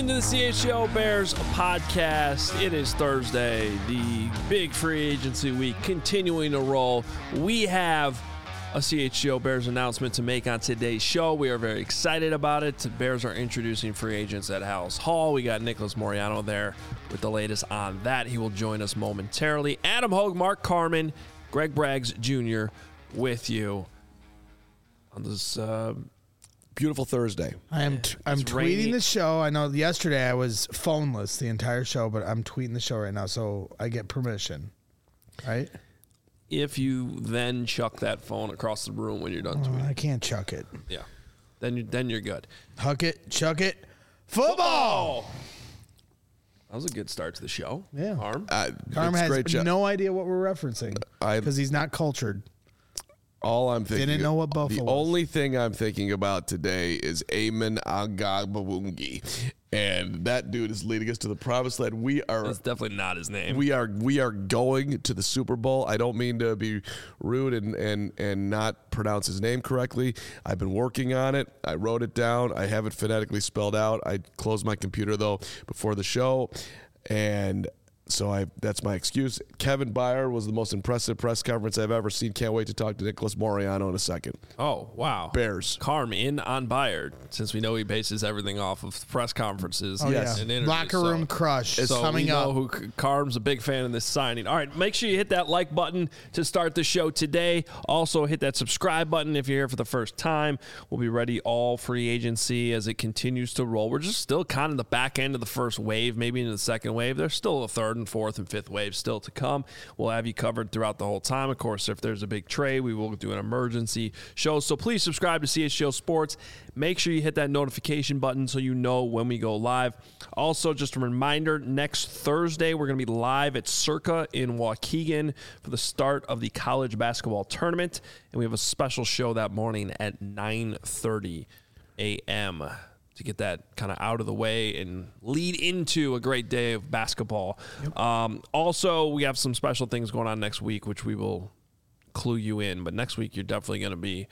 into the CHGO Bears podcast. It is Thursday, the big free agency week continuing to roll. We have a CHGO Bears announcement to make on today's show. We are very excited about it. The Bears are introducing free agents at Halas Hall. We got Nicholas Moreano there with the latest on that. He will join us momentarily. Adam Hogue, Mark Carman, Greg Braggs Jr. with you on this beautiful Thursday. I'm tweeting the show. I know yesterday I was phoneless the entire show, but I'm tweeting the show right now, so I get permission, right? If you then chuck that phone across the room when you're done tweeting. I can't chuck it. Yeah. Then you're good. Huck it, chuck it, football! That was a good start to the show. Yeah. Harm. Carm has no idea what we're referencing because he's not cultured. All I'm thinking. Didn't know what Buffalo was. Only thing I'm thinking about today is Amen Agabawungi. And that dude is leading us to the promised land. That's definitely not his name. We are going to the Super Bowl. I don't mean to be rude and not pronounce his name correctly. I've been working on it. I wrote it down. I have it phonetically spelled out. I closed my computer though before the show, and so that's my excuse. Kevin Byard was the most impressive press conference I've ever seen. Can't wait to talk to Nicholas Moreano in a second. Oh, wow. Bears. Carm in on Byard, since we know he bases everything off of press conferences. Oh, yes. And interviews. Locker room crush is coming up. So we know Carm's a big fan of this signing. All right, make sure you hit that like button to start the show today. Also, hit that subscribe button if you're here for the first time. We'll be ready all free agency as it continues to roll. We're just still kind of the back end of the first wave, maybe into the second wave. There's still a third and fourth and fifth wave still to come. We'll have you covered throughout the whole time. Of course, if there's a big trade, we will do an emergency show. So please subscribe to CHGO Sports. Make sure you hit that notification button so you know when we go live. Also, just a reminder, next Thursday, we're going to be live at Circa in Waukegan for the start of the college basketball tournament. And we have a special show that morning at 9:30 a.m. to get that kind of out of the way and lead into a great day of basketball. Yep. Also, we have some special things going on next week, which we will clue you in. But next week, you're definitely going to be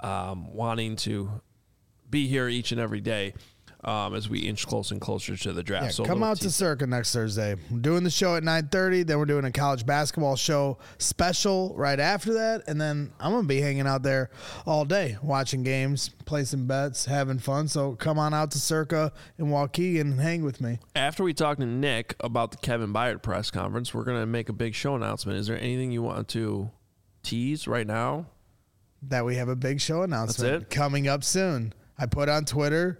wanting to be here each and every day as we inch closer and closer to the draft. Yeah, so come out to Circa next Thursday. We're doing the show at 9:30. Then we're doing a college basketball show special right after that. And then I'm going to be hanging out there all day, watching games, placing bets, having fun. So come on out to Circa in Waukegan and hang with me. After we talk to Nick about the Kevin Byard press conference, we're going to make a big show announcement. Is there anything you want to tease right now? That we have a big show announcement That's it? Coming up soon. I put on Twitter,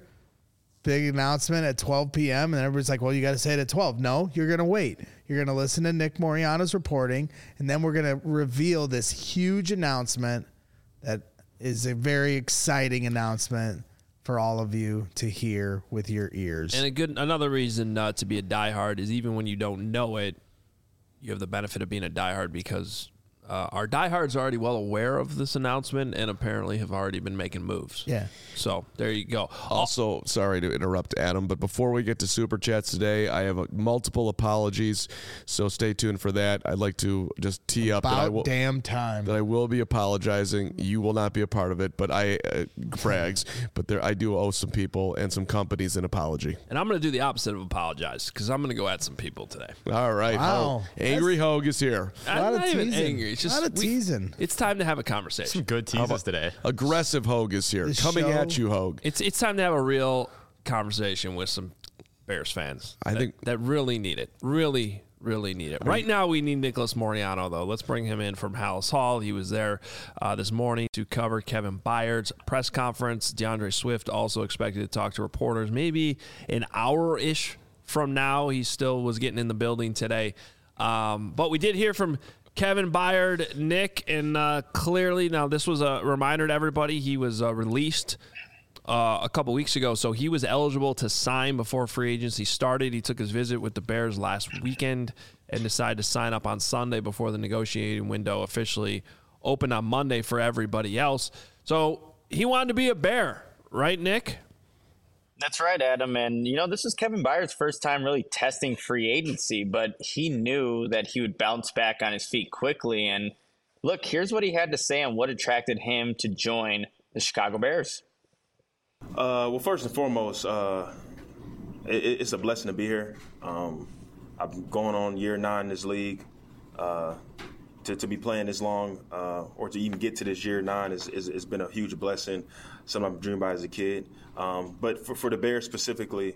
big announcement at 12 p.m. And everybody's like, well, you got to say it at 12. No, you're going to wait. You're going to listen to Nick Moreano's reporting, and then we're going to reveal this huge announcement that is a very exciting announcement for all of you to hear with your ears. And another reason to be a diehard is even when you don't know it, you have the benefit of being a diehard because our diehards are already well aware of this announcement and apparently have already been making moves. Yeah. So there you go. Also, sorry to interrupt, Adam, but before we get to Super Chats today, I have multiple apologies, so stay tuned for that. I'd like to just tee up that I will be apologizing. You will not be a part of it, but Braggs, but I do owe some people and some companies an apology. And I'm going to do the opposite of apologize because I'm going to go at some people today. All right. Wow. Angry Hogue is here. I'm not even angry. It's just teasing. It's time to have a conversation. Some good teases today. Aggressive Hogue is here. Coming at you, Hogue. It's time to have a real conversation with some Bears fans. I think that really need it. Really need it. Right now, we need Nicholas Moreano, though. Let's bring him in from Halas Hall. He was there this morning to cover Kevin Byard's press conference. DeAndre Swift also expected to talk to reporters maybe an hour-ish from now. He still was getting in the building today. But we did hear from Kevin Byard, Nick, and clearly, now this was a reminder to everybody, he was released a couple weeks ago, so he was eligible to sign before free agency started. He took his visit with the Bears last weekend and decided to sign up on Sunday before the negotiating window officially opened on Monday for everybody else. So he wanted to be a Bear, right, Nick? That's right, Adam. And, this is Kevin Byard's first time really testing free agency, but he knew that he would bounce back on his feet quickly. And look, here's what he had to say on what attracted him to join the Chicago Bears. Well, first and foremost, it's a blessing to be here. I'm going on year 9 in this league. To be playing this long, or to even get to this year 9 has been a huge blessing. Something I've dreamed about as a kid. But for the Bears specifically,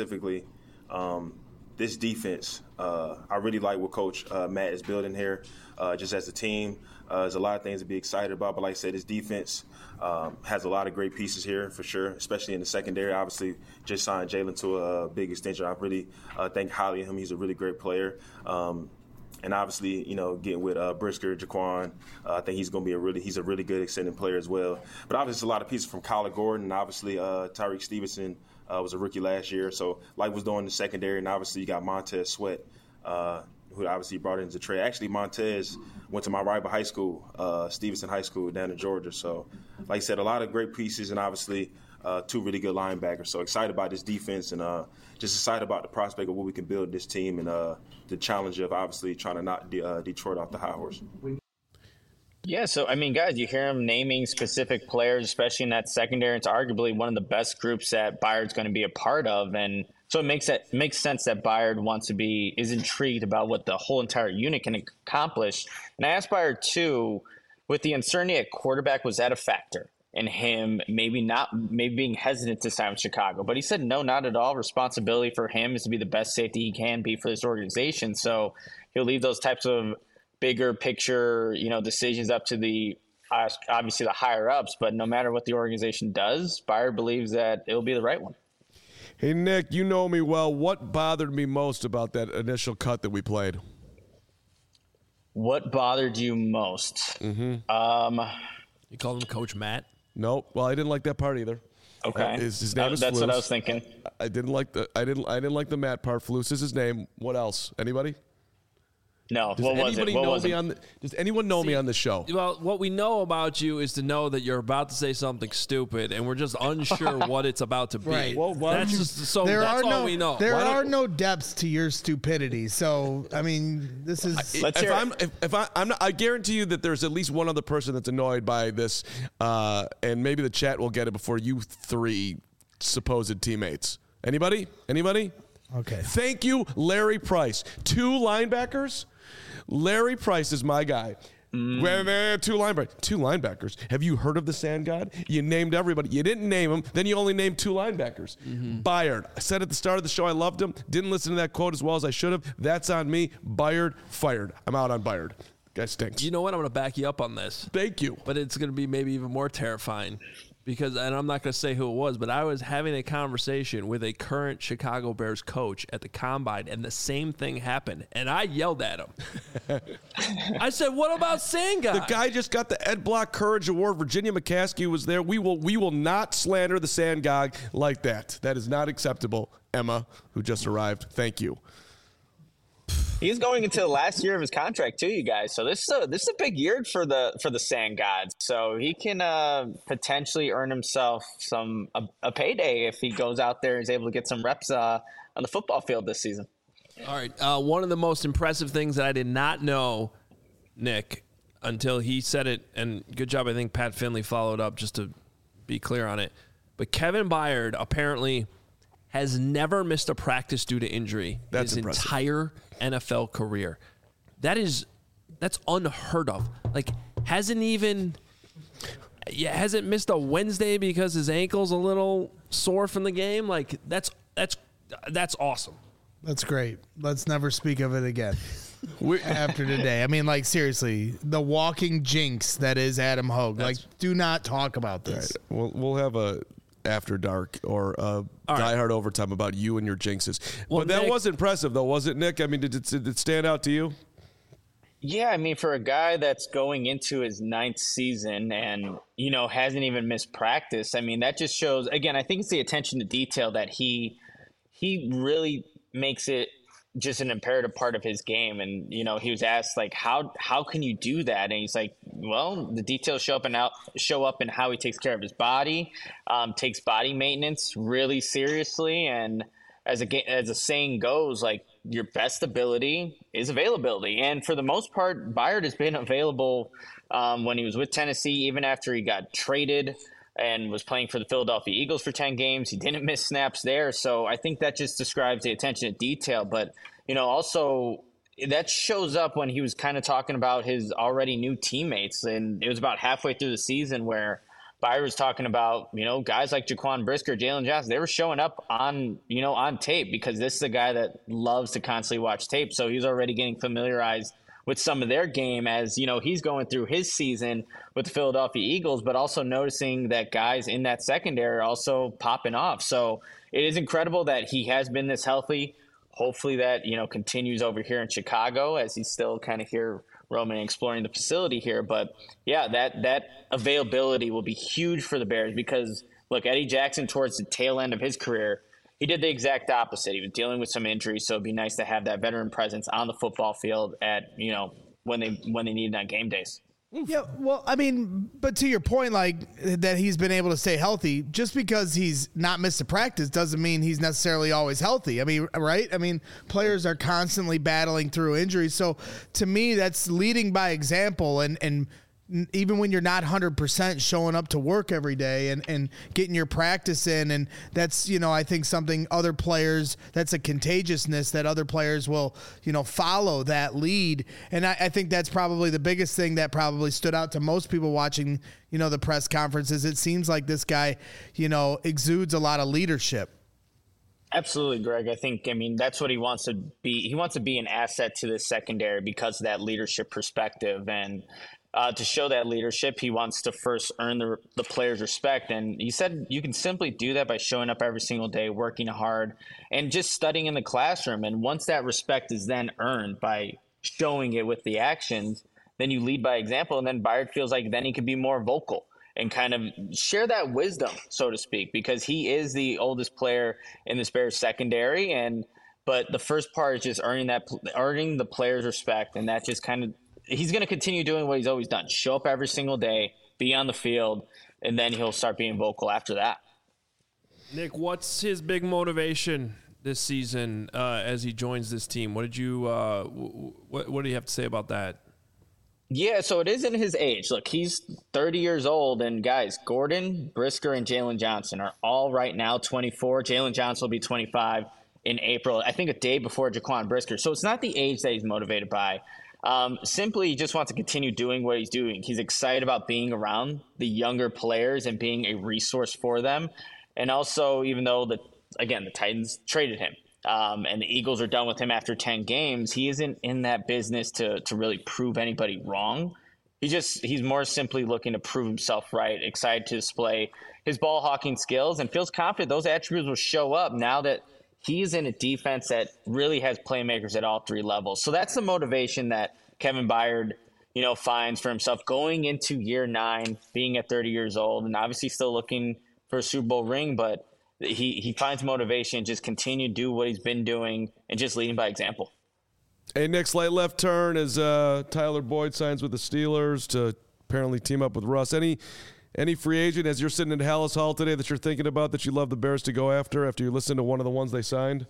this defense, I really like what Coach Matt is building here. Just as a team, there's a lot of things to be excited about. But like I said, this defense has a lot of great pieces here for sure, especially in the secondary. Obviously, just signed Jalen to a big extension. I really think highly of him. He's a really great player. And obviously, getting with Brisker, Jaquan, I think he's going to be he's a really good extended player as well. But obviously, a lot of pieces from Kyler Gordon, and obviously Tyreek Stevenson was a rookie last year. So like was doing the secondary, and obviously you got Montez Sweat, who obviously brought into the trade. Actually, Montez went to my rival high school, Stevenson High School down in Georgia. So like I said, a lot of great pieces, and obviously 2 really good linebackers. So excited about this defense, and just excited about the prospect of what we can build this team, and the challenge of obviously trying to knock Detroit off the high horse. Yeah, so, I mean, guys, you hear him naming specific players, especially in that secondary. It's arguably one of the best groups that Byard's going to be a part of. And so it makes sense that Byard is intrigued about what the whole entire unit can accomplish. And I asked Byard, too, with the uncertainty at quarterback, was that a factor in him maybe being hesitant to sign with Chicago? But he said, no, not at all. Responsibility for him is to be the best safety he can be for this organization. So he'll leave those types of bigger picture, decisions up to obviously the higher ups, but no matter what the organization does, Byard believes that it'll be the right one. Hey, Nick, you know me well. What bothered me most about that initial cut that we played? What bothered you most? Mm-hmm. You called him Coach Matt? Nope. Well, I didn't like that part either. Okay. His name is That's Flus. what I was thinking. I didn't like the Matt part. Flus is his name. What else? Anybody? No. What was it? Does anyone know me on the show? Well, what we know about you is to know that you're about to say something stupid, and we're just unsure what it's about to be. Right. Well, That's all we know. There are no depths to your stupidity. So, I mean, this is. I guarantee you that there's at least one other person that's annoyed by this, and maybe the chat will get it before you 3 supposed teammates. Anybody? Okay. Thank you, Larry Price. 2 linebackers. Larry Price is my guy. Two linebackers. Have you heard of the Sand God? You named everybody. You didn't name him. Then you only named 2 linebackers. Byard. I said at the start of the show I loved him. Didn't listen to that quote as well as I should have. That's on me. Byard fired. I'm out on Byard. Guy stinks. You know what? I'm going to back you up on this. Thank you. But it's going to be maybe even more terrifying. Because, and I'm not going to say who it was, but I was having a conversation with a current Chicago Bears coach at the Combine, and the same thing happened. And I yelled at him. I said, "What about Sand God?" The guy just got the Ed Block Courage Award. Virginia McCaskey was there. We will not slander the Sand God like that. That is not acceptable. Emma, who just arrived, thank you. He's going into the last year of his contract too, you guys. So this is a big year for the Sand Gods. So he can potentially earn himself a payday if he goes out there and is able to get some reps on the football field this season. All right. One of the most impressive things that I did not know, Nick, until he said it, and good job, I think Pat Finley followed up just to be clear on it. But Kevin Byard apparently has never missed a practice due to injury his entire NFL career. That's unheard of. Like, hasn't missed a Wednesday because his ankle's a little sore from the game. Like, that's awesome. That's great. Let's never speak of it again. After today. I mean, like, seriously, the walking jinx that is Adam Hogue. Like, do not talk about this. Right. We'll have a After Dark or Die Hard Overtime about you and your jinxes. Well, but that Nick, was impressive, though, was it, Nick? I mean, did it stand out to you? Yeah, I mean, for a guy that's going into his 9th season and, hasn't even missed practice, I mean, that just shows, again, I think it's the attention to detail that he really makes it just an imperative part of his game. And, he was asked, like, how can you do that? And he's like, well, the details show up in how he takes care of his body, takes body maintenance really seriously. And as a saying goes, like, your best ability is availability. And for the most part, Byard has been available when he was with Tennessee, even after he got traded. and was playing for the Philadelphia Eagles for 10 games. He didn't miss snaps there. So I think that just describes the attention to detail. But, also that shows up when he was kind of talking about his already new teammates. And it was about halfway through the season where Byard was talking about, guys like Jaquan Brisker, Jalen Johnson, they were showing up on tape because this is a guy that loves to constantly watch tape. So he's already getting familiarized with some of their game as, he's going through his season with the Philadelphia Eagles, but also noticing that guys in that secondary are also popping off. So it is incredible that he has been this healthy. Hopefully that, continues over here in Chicago as he's still kind of here roaming and exploring the facility here. But yeah, that availability will be huge for the Bears because look, Eddie Jackson towards the tail end of his career, he did the exact opposite. He was dealing with some injuries, so it'd be nice to have that veteran presence on the football field at when they need it on game days. Yeah, well, I mean, but to your point, like that he's been able to stay healthy, just because he's not missed a practice doesn't mean he's necessarily always healthy. I mean, right? I mean, players are constantly battling through injuries. So to me, that's leading by example and even when you're not 100% showing up to work every day and getting your practice in. And that's, I think something other players, that's a contagiousness that other players will, follow that lead. And I think that's probably the biggest thing that probably stood out to most people watching, the press conferences. It seems like this guy, exudes a lot of leadership. Absolutely, Greg. I mean, that's what he wants to be. He wants to be an asset to the secondary because of that leadership perspective. And to show that leadership, he wants to first earn the players' respect. And he said you can simply do that by showing up every single day, working hard, and just studying in the classroom. And once that respect is then earned by showing it with the actions, then you lead by example. And then Byard feels like then he could be more vocal and kind of share that wisdom, so to speak, because he is the oldest player in this Bears secondary. But the first part is just earning the players' respect, and that just kind of he's going to continue doing what he's always done. Show up every single day, be on the field, and then he'll start being vocal after that. Nick, what's his big motivation this season as he joins this team? What did you what do you have to say about that? Yeah, so it isn't his age. Look, he's 30 years old, and guys, Gordon, Brisker, and Jalen Johnson are all right now 24. Jalen Johnson will be 25 in April, I think a day before Jaquan Brisker. So it's not the age that he's motivated by. Simply he just wants to continue doing what he's doing. He's excited about being around the younger players and being a resource for them. And also, even though the Titans traded him and the Eagles are done with him after 10 games, he isn't in that business to really prove anybody wrong. He's more simply looking to prove himself right, excited to display his ball hawking skills, and feels confident those attributes will show up now that he's in a defense that really has playmakers at all three levels. So that's the motivation that Kevin Byard, finds for himself going into year 9, being at 30 years old, and obviously still looking for a Super Bowl ring. But he finds motivation, just continue to do what he's been doing and just leading by example. Hey, Nick, slight left turn as Tyler Boyd signs with the Steelers to apparently team up with Russ. Any free agent, as you're sitting in Hallis Hall today, that you're thinking about that you love the Bears to go after you listen to one of the ones they signed?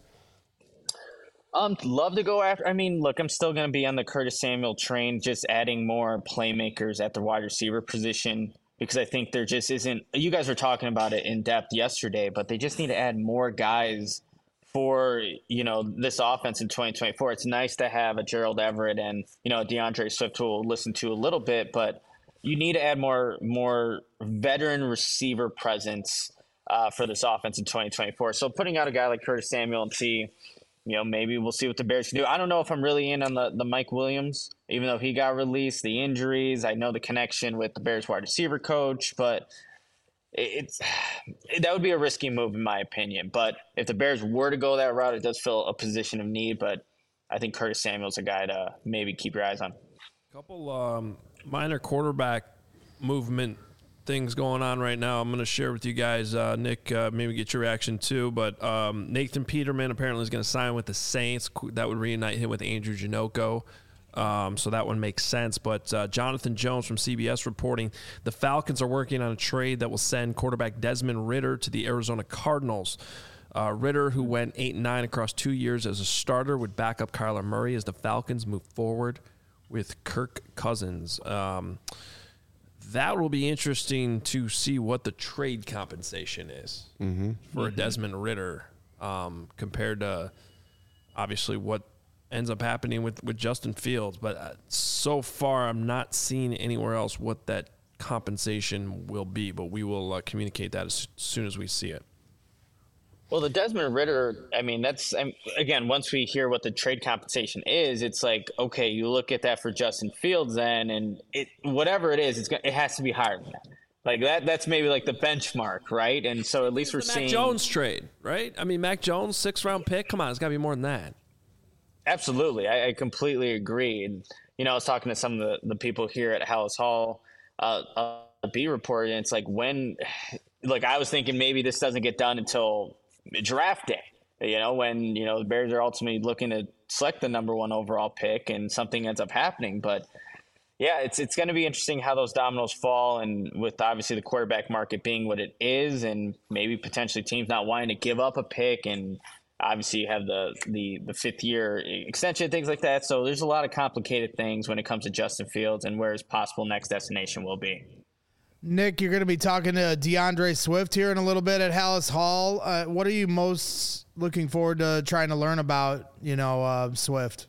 Love to go after. I mean, look, I'm still going to be on the Curtis Samuel train, just adding more playmakers at the wide receiver position because I think there just isn't – you guys were talking about it in depth yesterday, but they just need to add more guys for, this offense in 2024. It's nice to have a Gerald Everett and, DeAndre Swift who we'll listen to a little bit, but – you need to add more veteran receiver presence for this offense in 2024. So putting out a guy like Curtis Samuel and see, maybe we'll see what the Bears can do. I don't know if I'm really in on the Mike Williams, even though he got released, the injuries. I know the connection with the Bears wide receiver coach, but that would be a risky move in my opinion. But if the Bears were to go that route, it does fill a position of need. But I think Curtis Samuel's a guy to maybe keep your eyes on. Couple minor quarterback movement things going on right now. I'm going to share with you guys, Nick, maybe get your reaction too. But Nathan Peterman apparently is going to sign with the Saints. That would reunite him with Andrew Janocko. So that one makes sense. But Jonathan Jones from CBS reporting the Falcons are working on a trade that will send quarterback Desmond Ridder to the Arizona Cardinals. Ridder, who went 8-9 across 2 years as a starter, would back up Kyler Murray as the Falcons move forward with Kirk Cousins. that will be interesting to see what the trade compensation is for a Desmond Ridder compared to obviously what ends up happening with Justin Fields. But so far, I'm not seeing anywhere else what that compensation will be, but we will communicate that as soon as we see it. Well, the Desmond Ridder, I mean, again, once we hear what the trade compensation is, it's like, okay, you look at that for Justin Fields then, and whatever it is, it has to be higher than that. Like that's maybe like the benchmark, right? And so at least we're seeing Mac Jones trade, right? I mean, Mac Jones, 6th-round pick. Come on, it's got to be more than that. Absolutely. I completely agree. And, I was talking to some of the people here at Hallis Hall, B report, and it's like I was thinking maybe this doesn't get done until draft day, when, the Bears are ultimately looking to select the number 1 overall pick and something ends up happening. But yeah, it's going to be interesting how those dominoes fall, and with obviously the quarterback market being what it is, and maybe potentially teams not wanting to give up a pick, and obviously you have the 5th-year extension, things like that. So there's a lot of complicated things when it comes to Justin Fields and where his possible next destination will be. Nick, you're going to be talking to DeAndre Swift here in a little bit at Hallis Hall. What are you most looking forward to trying to learn about, Swift?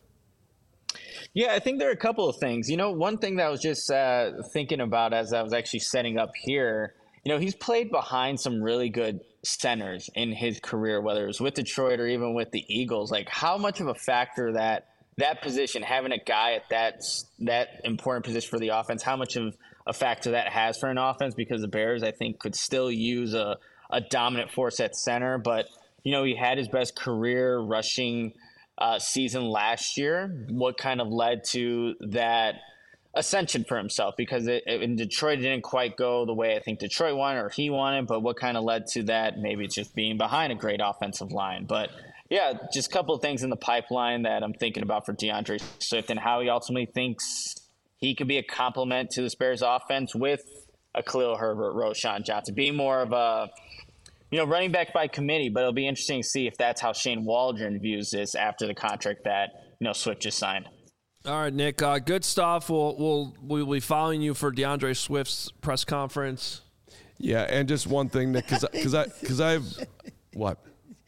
Yeah, I think there are a couple of things. One thing that I was just thinking about as I was actually setting up here, he's played behind some really good centers in his career, whether it was with Detroit or even with the Eagles. Like, how much of a factor that position, having a guy at that important position for the offense, how much of a factor that has for an offense, because the Bears, I think, could still use a dominant force at center. But, he had his best career rushing season last year. What kind of led to that ascension for himself? Because in Detroit, it didn't quite go the way I think Detroit wanted or he wanted, but what kind of led to that? Maybe it's just being behind a great offensive line. But yeah, just a couple of things in the pipeline that I'm thinking about for DeAndre Swift and how he ultimately thinks he could be a complement to the Bears offense with a Khalil Herbert, Roschon Johnson, being more of a running back by committee. But it'll be interesting to see if that's how Shane Waldron views this after the contract that Swift just signed. All right, Nick. Good stuff. We'll be following you for DeAndre Swift's press conference. Yeah, and just one thing, Nick, because I've what.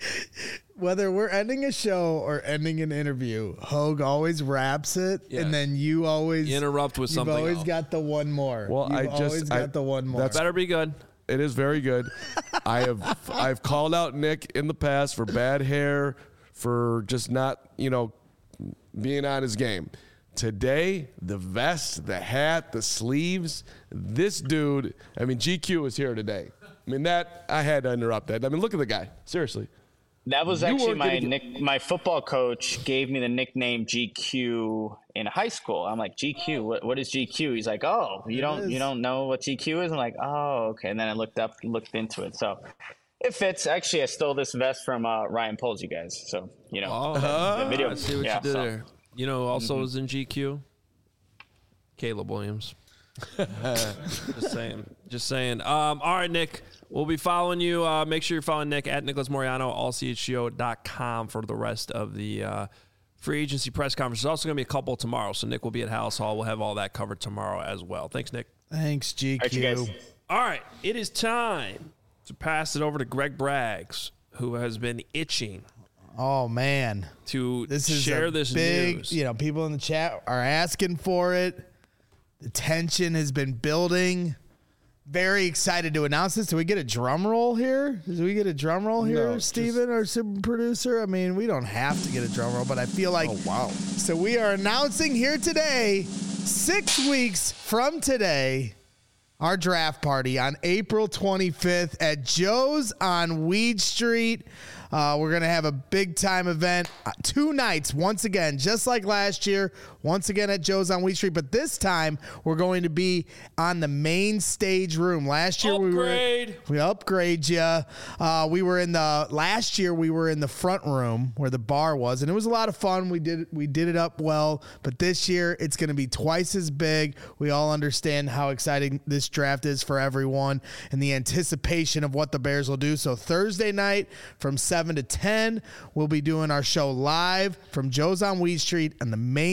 Whether we're ending a show or ending an interview, Hogue always wraps it, and then you always interrupt with something. You've always else. got the one more. Well, You've always got the one more. That better be good. It is very good. I've called out Nick in the past for bad hair, for just not being on his game. Today, the vest, the hat, the sleeves, this dude. I mean, GQ is here today. I mean, I had to interrupt that. I mean, look at the guy. Seriously. That was actually my football coach gave me the nickname GQ in high school. I'm like, GQ, what is GQ? He's like, oh, you don't know what GQ is? I'm like, oh, okay. And then I looked into it. So it fits. Actually, I stole this vest from Ryan Poles, you guys. So, the video. I see what you did there. Also was in GQ? Caleb Williams. Just saying. All right, Nick. We'll be following you. Make sure you're following Nick at Nicholas Moriano, allchgo.com for the rest of the free agency press conference. There's also going to be a couple tomorrow, so Nick will be at Hallis Hall. We'll have all that covered tomorrow as well. Thanks, Nick. Thanks, GQ. All right, you guys. All right, it is time to pass it over to Greg Braggs, who has been itching. Oh, man. To share this news. People in the chat are asking for it. The tension has been building. Very excited to announce this. Do we get a drum roll here? No, Steven, our super producer? I mean, we don't have to get a drum roll, but I feel like... Oh, wow. So we are announcing here today, 6 weeks from today, our draft party on April 25th at Joe's on Weed Street. We're going to have a big-time event, 2 nights, once again, just like last year, once again at Joe's on Weed Street. But this time, we're going to be on the main stage room. Last year, we upgrade you. Last year, we were in the front room where the bar was, and it was a lot of fun. We did it up well. But this year, it's going to be twice as big. We all understand how exciting this draft is for everyone and the anticipation of what the Bears will do. So Thursday night from 7 to 10, we'll be doing our show live from Joe's on Weed Street on the main stage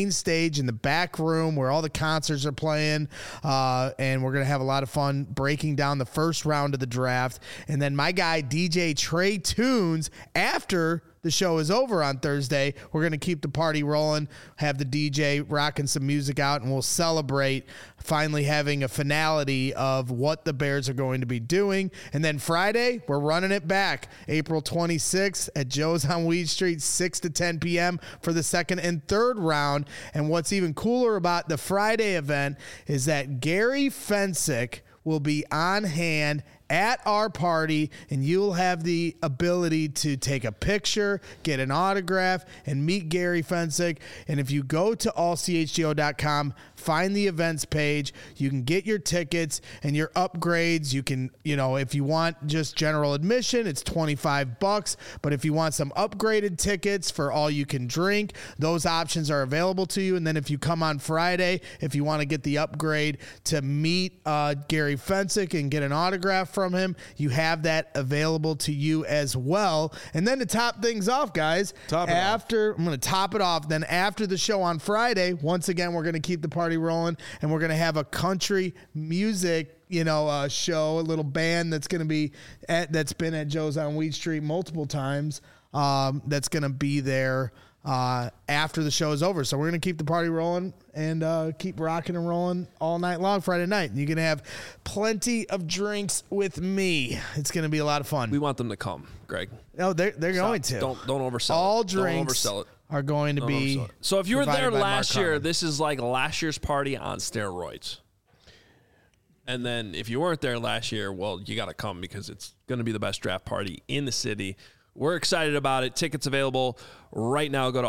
stage in the back room where all the concerts are playing. And we're going to have a lot of fun breaking down the first round of the draft. And then my guy, DJ Trey Tunes, after the show is over on Thursday, we're going to keep the party rolling, have the DJ rocking some music out, and we'll celebrate finally having a finality of what the Bears are going to be doing. And then Friday, we're running it back, April 26th at Joe's on Weed Street, 6 to 10 p.m. for the second and third round. And what's even cooler about the Friday event is that Gary Fensick will be on hand at our party, and you'll have the ability to take a picture, get an autograph, and meet Gary Fensick. And if you go to allchgo.com, find the events page, you can get your tickets and your upgrades. You can, if you want just general admission, it's $25. But if you want some upgraded tickets for all you can drink, those options are available to you. And then if you come on Friday, if you want to get the upgrade to meet Gary Fensick and get an autograph from him, you have that available to you as well. And then to top things off, guys, I'm going to top it off. Then after the show on Friday, once again, we're going to keep the party rolling, and we're going to have a country music show, a little band that's going to be that's been at Joe's on Weed Street multiple times. That's going to be there after the show is over. So we're going to keep the party rolling and keep rocking and rolling all night long Friday night. You're going to have plenty of drinks with me. It's going to be a lot of fun. We want them to come, Greg. No, they're going to. Don't oversell all it. Drinks don't oversell it. Are going to be. So if you were there last year, Harmon. this is like last year's party on steroids. And then if you weren't there last year, well, you got to come because it's going to be the best draft party in the city. We're excited about it. Tickets available right now. Go to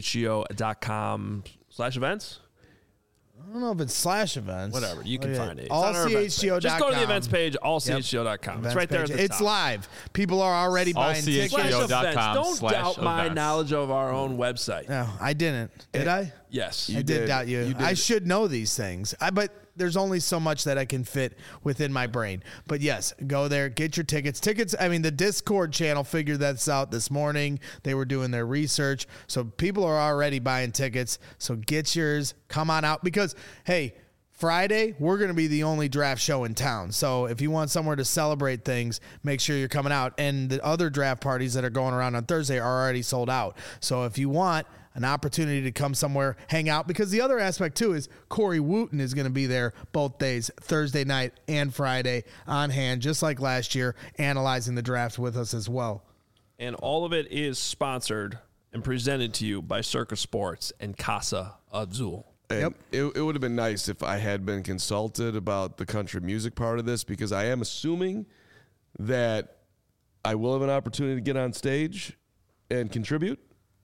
allchgo.com/events. I don't know if it's /events. Whatever. You can find it. Allchgo.com. Just go to the events page, allchgo.com. It's right there at the top. It's live. People are already buying tickets. Don't doubt my knowledge of our own website. No, I didn't. Did I? Yes. I did doubt you. I should know these things. But there's only so much that I can fit within my brain. But yes, go there, get your tickets. The Discord channel figured that out this morning. They were doing their research. So people are already buying tickets. So get yours. Come on out because, hey, Friday, we're going to be the only draft show in town. So if you want somewhere to celebrate things, make sure you're coming out. And the other draft parties that are going around on Thursday are already sold out. So if you want an opportunity to come somewhere, hang out, because the other aspect too is Corey Wooten is going to be there both days, Thursday night and Friday, on hand, just like last year, analyzing the draft with us as well. And all of it is sponsored and presented to you by Circa Sports and Casa Azul. And it would have been nice if I had been consulted about the country music part of this, because I am assuming that I will have an opportunity to get on stage and contribute.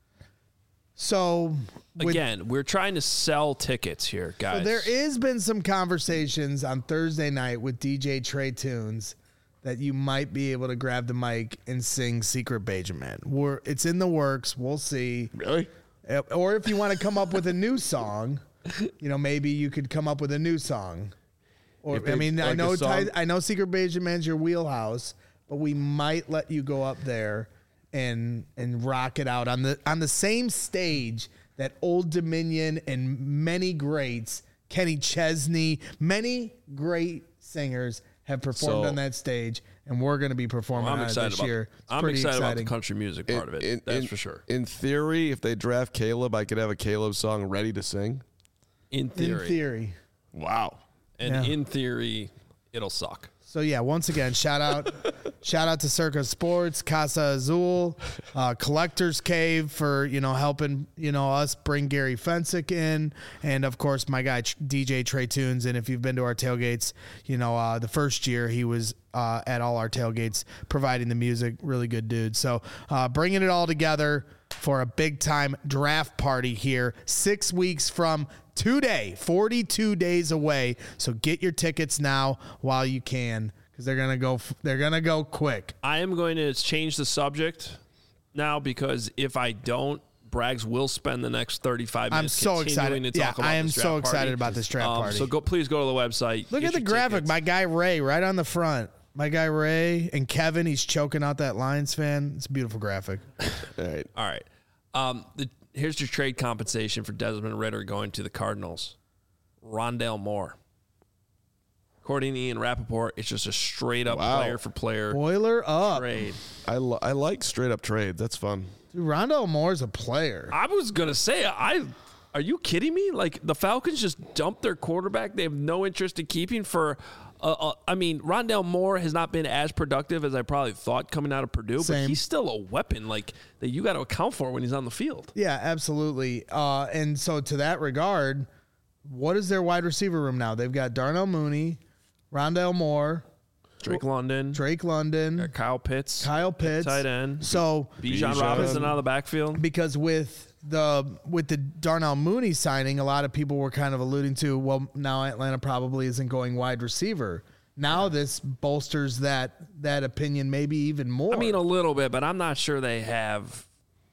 So again, we're trying to sell tickets here, guys. So there has been some conversations on Thursday night with DJ Trey Tunes that you might be able to grab the mic and sing Secret Benjamin. It's in the works. We'll see. Really? Or if you want to come up with a new song, maybe you could come up with a new song. Or I know Secret Benjamin's your wheelhouse, but we might let you go up there and rock it out on the same stage that Old Dominion and many greats, Kenny Chesney, many great singers have performed on that stage, and we're going to be performing on it this year. I'm excited about the country music part of it. That's for sure. In theory, if they draft Caleb, I could have a Caleb song ready to sing. In theory. Wow. And in theory, it'll suck. So yeah, once again, shout out to Circa Sports, Casa Azul, Collector's Cave for helping us bring Gary Fensick in, and of course my guy DJ Trey Tunes. And if you've been to our tailgates, the first year he was at all our tailgates providing the music. Really good dude. So bringing it all together for a big time draft party here 6 weeks from today, 42 days away. So get your tickets now while you can, because they're gonna go quick. I am going to change the subject now, because if I don't, Braggs will spend the next 35 minutes. I'm so excited. To talk about I am this draft so party. excited about this draft party. So please go to the website. Look at the graphic. Tickets. My guy Ray right on the front. My guy Ray and Kevin, he's choking out that Lions fan. It's a beautiful graphic. All right. All right. here's your trade compensation for Desmond Ridder going to the Cardinals. Rondale Moore. According to Ian Rappaport, it's just a straight-up player-for-player Boiler up. trade. I like straight-up trades. That's fun. Dude, Rondale Moore's a player. I was going to say, are you kidding me? Like, the Falcons just dumped their quarterback. They have no interest in keeping for Rondale Moore has not been as productive as I probably thought coming out of Purdue, but he's still a weapon like that you got to account for when he's on the field. Yeah, absolutely. And so to that regard, what is their wide receiver room now? They've got Darnell Mooney, Rondale Moore, Drake London, Kyle Pitts, tight end. So Bijan Robinson out of the backfield. Because with the Darnell Mooney signing, a lot of people were kind of alluding to, well, now Atlanta probably isn't going wide receiver. Now this bolsters that opinion maybe even more. I mean, a little bit, but I'm not sure they have.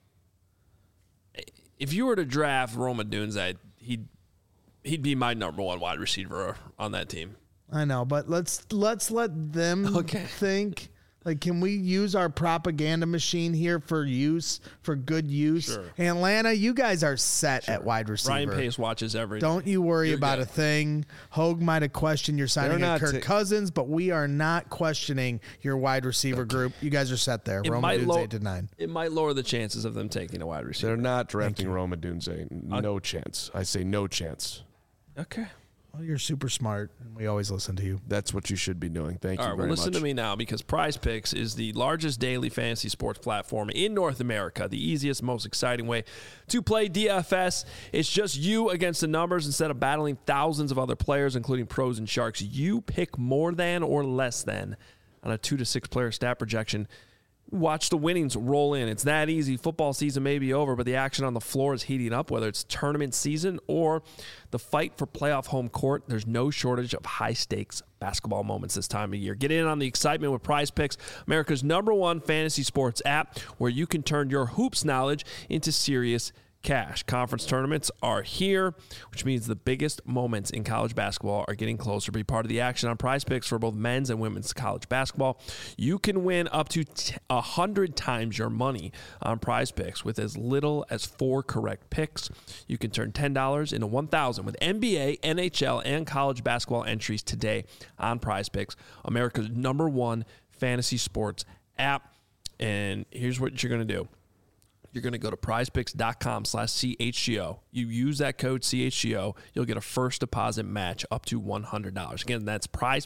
If you were to draft Rome Odunze, he'd be my number one wide receiver on that team. I know, but let's let them think. Like, can we use our propaganda machine here for good use? Sure. Atlanta, you guys are set at wide receiver. Ryan Pace watches everything. Don't you worry about a thing. Hogue might have questioned your signing of Kirk Cousins, but we are not questioning your wide receiver group. You guys are set there. Rome Odunze 8-9. It might lower the chances of them taking a wide receiver. They're not drafting Rome Odunze. No chance. I say no chance. Okay. Well, you're super smart, and we always listen to you. That's what you should be doing. Thank you very much. Listen to me now, because Prize Picks is the largest daily fantasy sports platform in North America, the easiest, most exciting way to play DFS. It's just you against the numbers instead of battling thousands of other players, including pros and sharks. You pick more than or less than on a 2 to 6 player stat projection. Watch the winnings roll in. It's that easy. Football season may be over, but the action on the floor is heating up, whether it's tournament season or the fight for playoff home court. There's no shortage of high-stakes basketball moments this time of year. Get in on the excitement with Prize Picks, America's #1 fantasy sports app, where you can turn your hoops knowledge into serious cash. Conference tournaments are here, which means the biggest moments in college basketball are getting closer. Be part of the action on Prize Picks for both men's and women's college basketball. You can win up to 100 times your money on Prize Picks with as little as 4 correct picks. You can turn $10 into $1,000 with NBA, NHL, and college basketball entries today on Prize Picks, America's #1 fantasy sports app. And here's what you're going to do. You're going to go to prizepicks.com/CHGO. You use that code CHGO, you'll get a first deposit match up to $100. Again, that's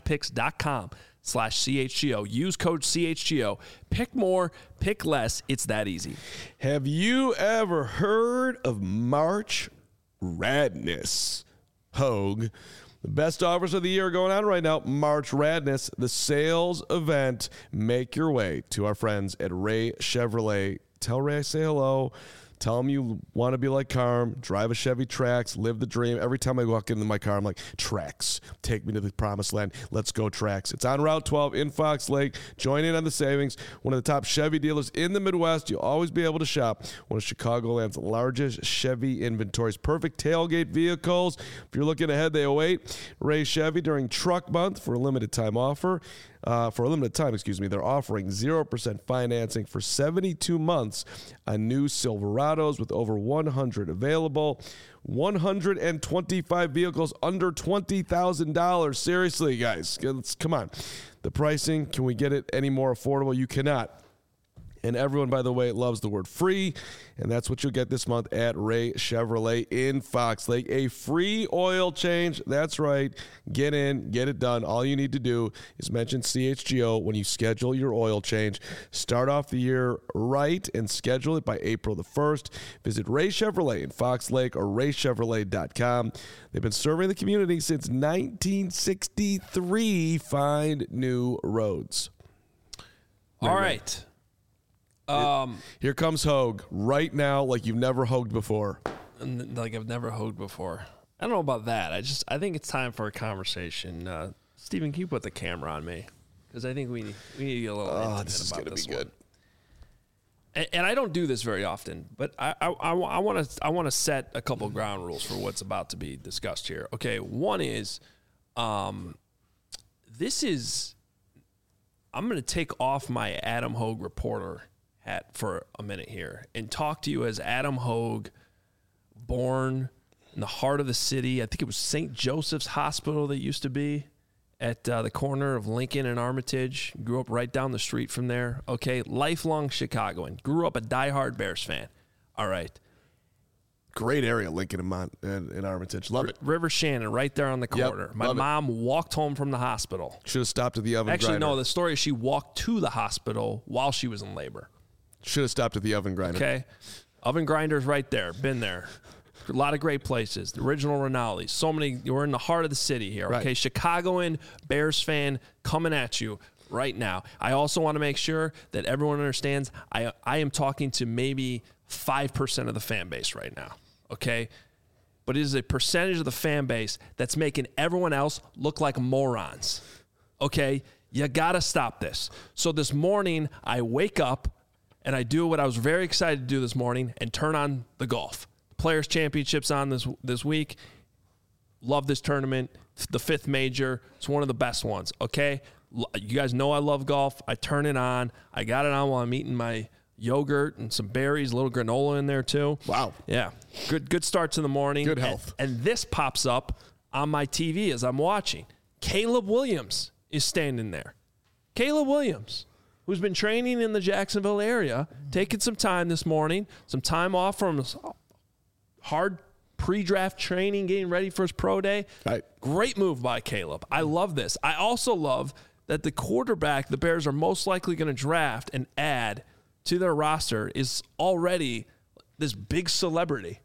prizepicks.com/CHGO. Use code CHGO. Pick more, pick less. It's that easy. Have you ever heard of March Radness? Hogue. The best offers of the year are going on right now. March Radness, the sales event. Make your way to our friends at Ray Chevrolet. Tell Ray I say hello. Tell him you want to be like Carm, drive a Chevy Trax, live the dream. Every time I walk into my car, I'm like, Trax, take me to the promised land. Let's go, Trax. It's on Route 12 in Fox Lake. Join in on the savings. One of the top Chevy dealers in the Midwest. You'll always be able to shop one of Chicagoland's largest Chevy inventories. Perfect tailgate vehicles. If you're looking ahead, they await. Ray Chevy during Truck Month for a limited time offer. For a limited time, they're offering 0% financing for 72 months on new Silverados with over 100 available. 125 vehicles under $20,000. Seriously, guys, come on. The pricing, can we get it any more affordable? You cannot. And everyone, by the way, loves the word free, and that's what you'll get this month at Ray Chevrolet in Fox Lake. A free oil change. That's right. Get in, get it done. All you need to do is mention CHGO when you schedule your oil change. Start off the year right and schedule it by April the 1st. Visit Ray Chevrolet in Fox Lake or raychevrolet.com. They've been serving the community since 1963. Find new roads. All right. Here comes Hogue right now, like you've never hogued before. Like I've never hogued before. I don't know about that. I think it's time for a conversation. Steven, can you put the camera on me? Because I think we need to get a little intimate this is about gonna this be good. One. And I don't do this very often, but I want to set a couple ground rules for what's about to be discussed here. Okay, one is, I'm going to take off my Adam Hogue reporter hat for a minute here and talk to you as Adam Hogue born in the heart of the city. I think it was St. Joseph's Hospital that used to be at the corner of Lincoln and Armitage. Grew up right down the street from there. Okay, lifelong Chicagoan. Grew up a diehard Bears fan. All right. Great area, Lincoln and Armitage. Love it. River Shannon, right there on the corner. Yep, My mom walked home from the hospital. Should have stopped at the oven grinder. Actually, no, the story is she walked to the hospital while she was in labor. Should have stopped at the oven grinder. Okay. Oven grinder's right there. Been there. A lot of great places. The original Rinaldi's. So many. We're in the heart of the city here. Okay. Right. Chicagoan Bears fan coming at you right now. I also want to make sure that everyone understands I am talking to maybe 5% of the fan base right now. Okay. But it is a percentage of the fan base that's making everyone else look like morons. Okay. You got to stop this. So this morning, I wake up and I do what I was very excited to do this morning and turn on the golf. Players Championships on this week. Love this tournament. It's the 5th major. It's one of the best ones. Okay. You guys know I love golf. I turn it on. I got it on while I'm eating my yogurt and some berries, a little granola in there too. Wow. Yeah. Good starts in the morning. Good health. And this pops up on my TV as I'm watching. Caleb Williams is standing there. Caleb Williams, who's been training in the Jacksonville area, taking some time this morning, some time off from hard pre-draft training, getting ready for his pro day. Right. Great move by Caleb. I love this. I also love that the quarterback the Bears are most likely going to draft and add to their roster is already this big celebrity.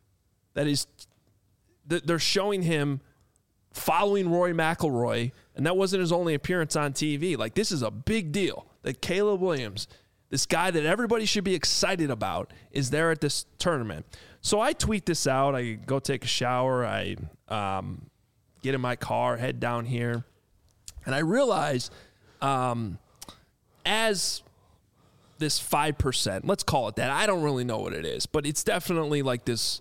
They're showing him following Rory McIlroy, and that wasn't his only appearance on TV. Like, this is a big deal that Caleb Williams, this guy that everybody should be excited about, is there at this tournament. So I tweet this out. I go take a shower. I get in my car, head down here, and I realize as this 5%, let's call it that. I don't really know what it is, but it's definitely like this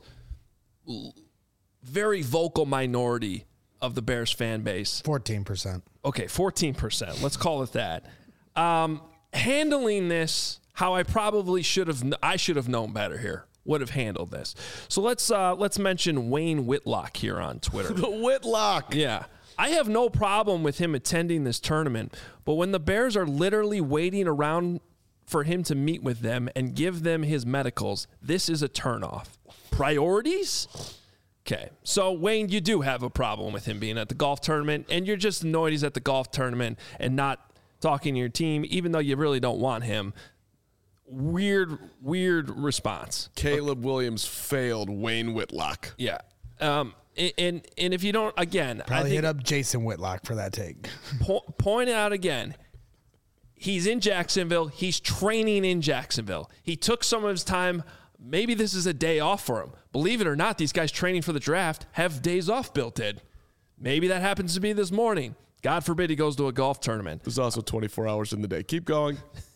very vocal minority of the Bears fan base. 14%. Okay, 14%. Let's call it that. Handling this how I probably should have known better here. Would have handled this. So let's mention Wayne Whitlock here on Twitter. The Whitlock. Yeah. I have no problem with him attending this tournament, but when the Bears are literally waiting around for him to meet with them and give them his medicals, this is a turnoff. Priorities? Okay. So, Wayne, you do have a problem with him being at the golf tournament, and you're just annoyed he's at the golf tournament and not talking to your team, even though you really don't want him. Weird response. Caleb Williams failed Wayne Whitlock. Yeah. And if you don't, again, Probably hit up Jason Whitlock for that take. Point out again, he's in Jacksonville. He's training in Jacksonville. He took some of his time. Maybe this is a day off for him. Believe it or not, these guys training for the draft have days off built in. Maybe that happens to be this morning. God forbid he goes to a golf tournament. There's also 24 hours in the day. Keep going.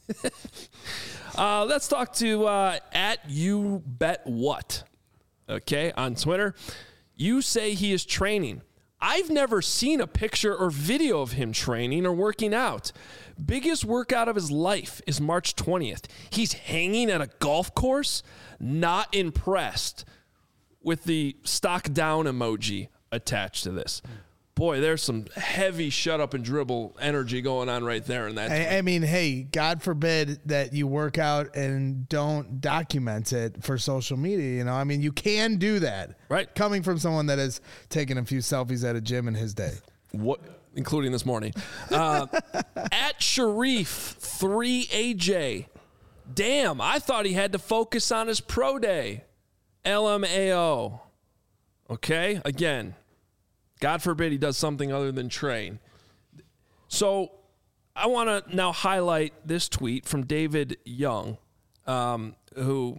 Let's talk to at YouBetWhat. Okay, on Twitter. You say he is training. I've never seen a picture or video of him training or working out. Biggest workout of his life is March 20th. He's hanging at a golf course? Not impressed. With the stock down emoji attached to this. Boy, there's some heavy shut up and dribble energy going on right there in that. I mean, hey, God forbid that you work out and don't document it for social media. You know, I mean, you can do that. Right. Coming from someone that has taken a few selfies at a gym in his day. What? Including this morning. At Sharif3AJ. Damn, I thought he had to focus on his pro day. LMAO. Okay, again. God forbid he does something other than train. So I want to now highlight this tweet from David Young, who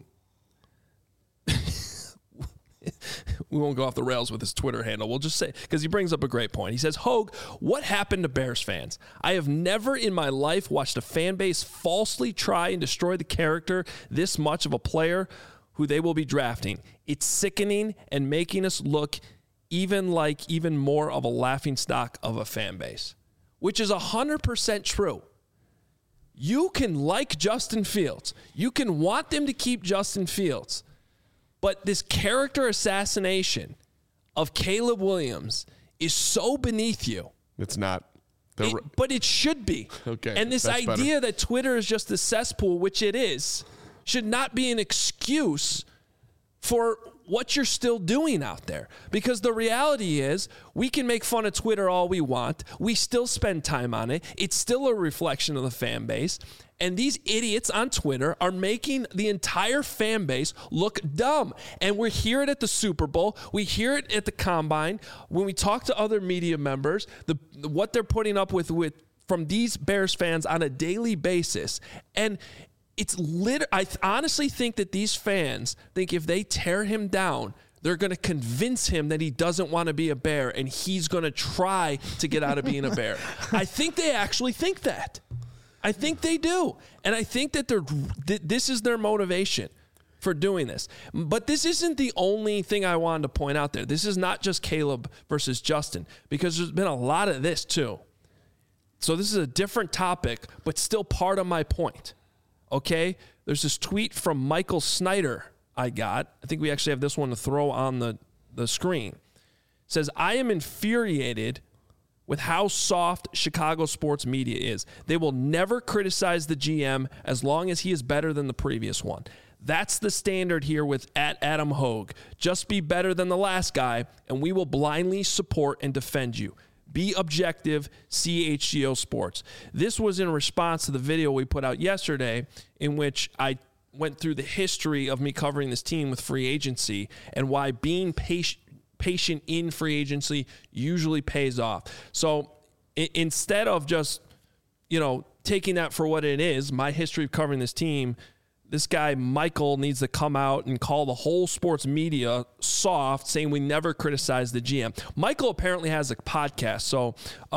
we won't go off the rails with his Twitter handle. We'll just say, because he brings up a great point. He says, Hogue, what happened to Bears fans? I have never in my life watched a fan base falsely try and destroy the character this much of a player who they will be drafting. It's sickening and making us look even more of a laughingstock of a fan base, which is 100% true. You can like Justin Fields. You can want them to keep Justin Fields. But this character assassination of Caleb Williams is so beneath you. It's not. But it should be. Okay. And this idea that Twitter is just a cesspool, which it is, should not be an excuse for what you're still doing out there. Because the reality is, we can make fun of Twitter all we want. We still spend time on it. It's still a reflection of the fan base. And these idiots on Twitter are making the entire fan base look dumb. And we hear it at the Super Bowl. We hear it at the Combine. When we talk to other media members, what they're putting up with from these Bears fans on a daily basis. And I honestly think that these fans think if they tear him down, they're going to convince him that he doesn't want to be a Bear and he's going to try to get out of being a Bear. I think they actually think that. I think they do. And I think that this is their motivation for doing this. But this isn't the only thing I wanted to point out there. This is not just Caleb versus Justin, because there's been a lot of this too. So this is a different topic, but still part of my point. Okay? There's this tweet from Michael Snyder I think we actually have this one to throw on the screen. It says, I am infuriated with how soft Chicago sports media is. They will never criticize the GM as long as he is better than the previous one. That's the standard here with @Adam Hogue. Just be better than the last guy, and we will blindly support and defend you. Be objective, CHGO Sports. This was in response to the video we put out yesterday in which I went through the history of me covering this team with free agency and why being patient in free agency usually pays off. So instead of just, taking that for what it is, my history of covering this team, this guy, Michael, needs to come out and call the whole sports media soft, saying we never criticize the GM. Michael apparently has a podcast. So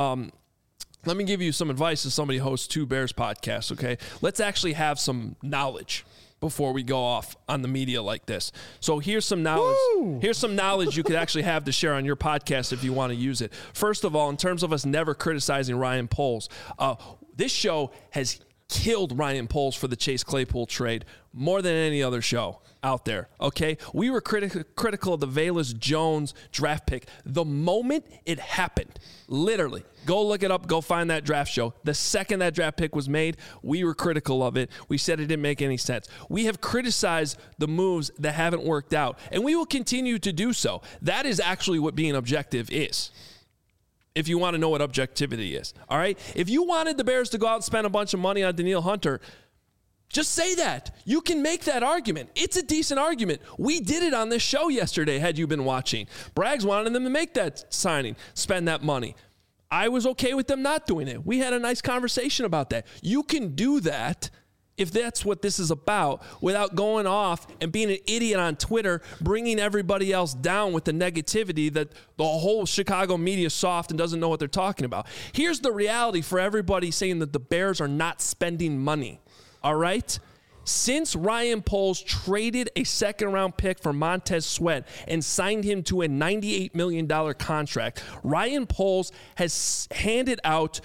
let me give you some advice as somebody who hosts 2 Bears podcasts, okay? Let's actually have some knowledge before we go off on the media like this. So here's some knowledge. Woo! Here's some knowledge you could actually have to share on your podcast if you want to use it. First of all, in terms of us never criticizing Ryan Poles, this show has killed Ryan Poles for the Chase Claypool trade more than any other show out there, okay? We were critical of the Velus Jones draft pick the moment it happened. Literally. Go look it up. Go find that draft show. The second that draft pick was made, we were critical of it. We said it didn't make any sense. We have criticized the moves that haven't worked out, and we will continue to do so. That is actually what being objective is. If you want to know what objectivity is, all right? If you wanted the Bears to go out and spend a bunch of money on Danielle Hunter, just say that. You can make that argument. It's a decent argument. We did it on this show yesterday, had you been watching. Braggs wanted them to make that signing, spend that money. I was okay with them not doing it. We had a nice conversation about that. You can do that if that's what this is about, without going off and being an idiot on Twitter, bringing everybody else down with the negativity that the whole Chicago media is soft and doesn't know what they're talking about. Here's the reality for everybody saying that the Bears are not spending money, all right? Since Ryan Poles traded a second-round pick for Montez Sweat and signed him to a $98 million contract, Ryan Poles has handed out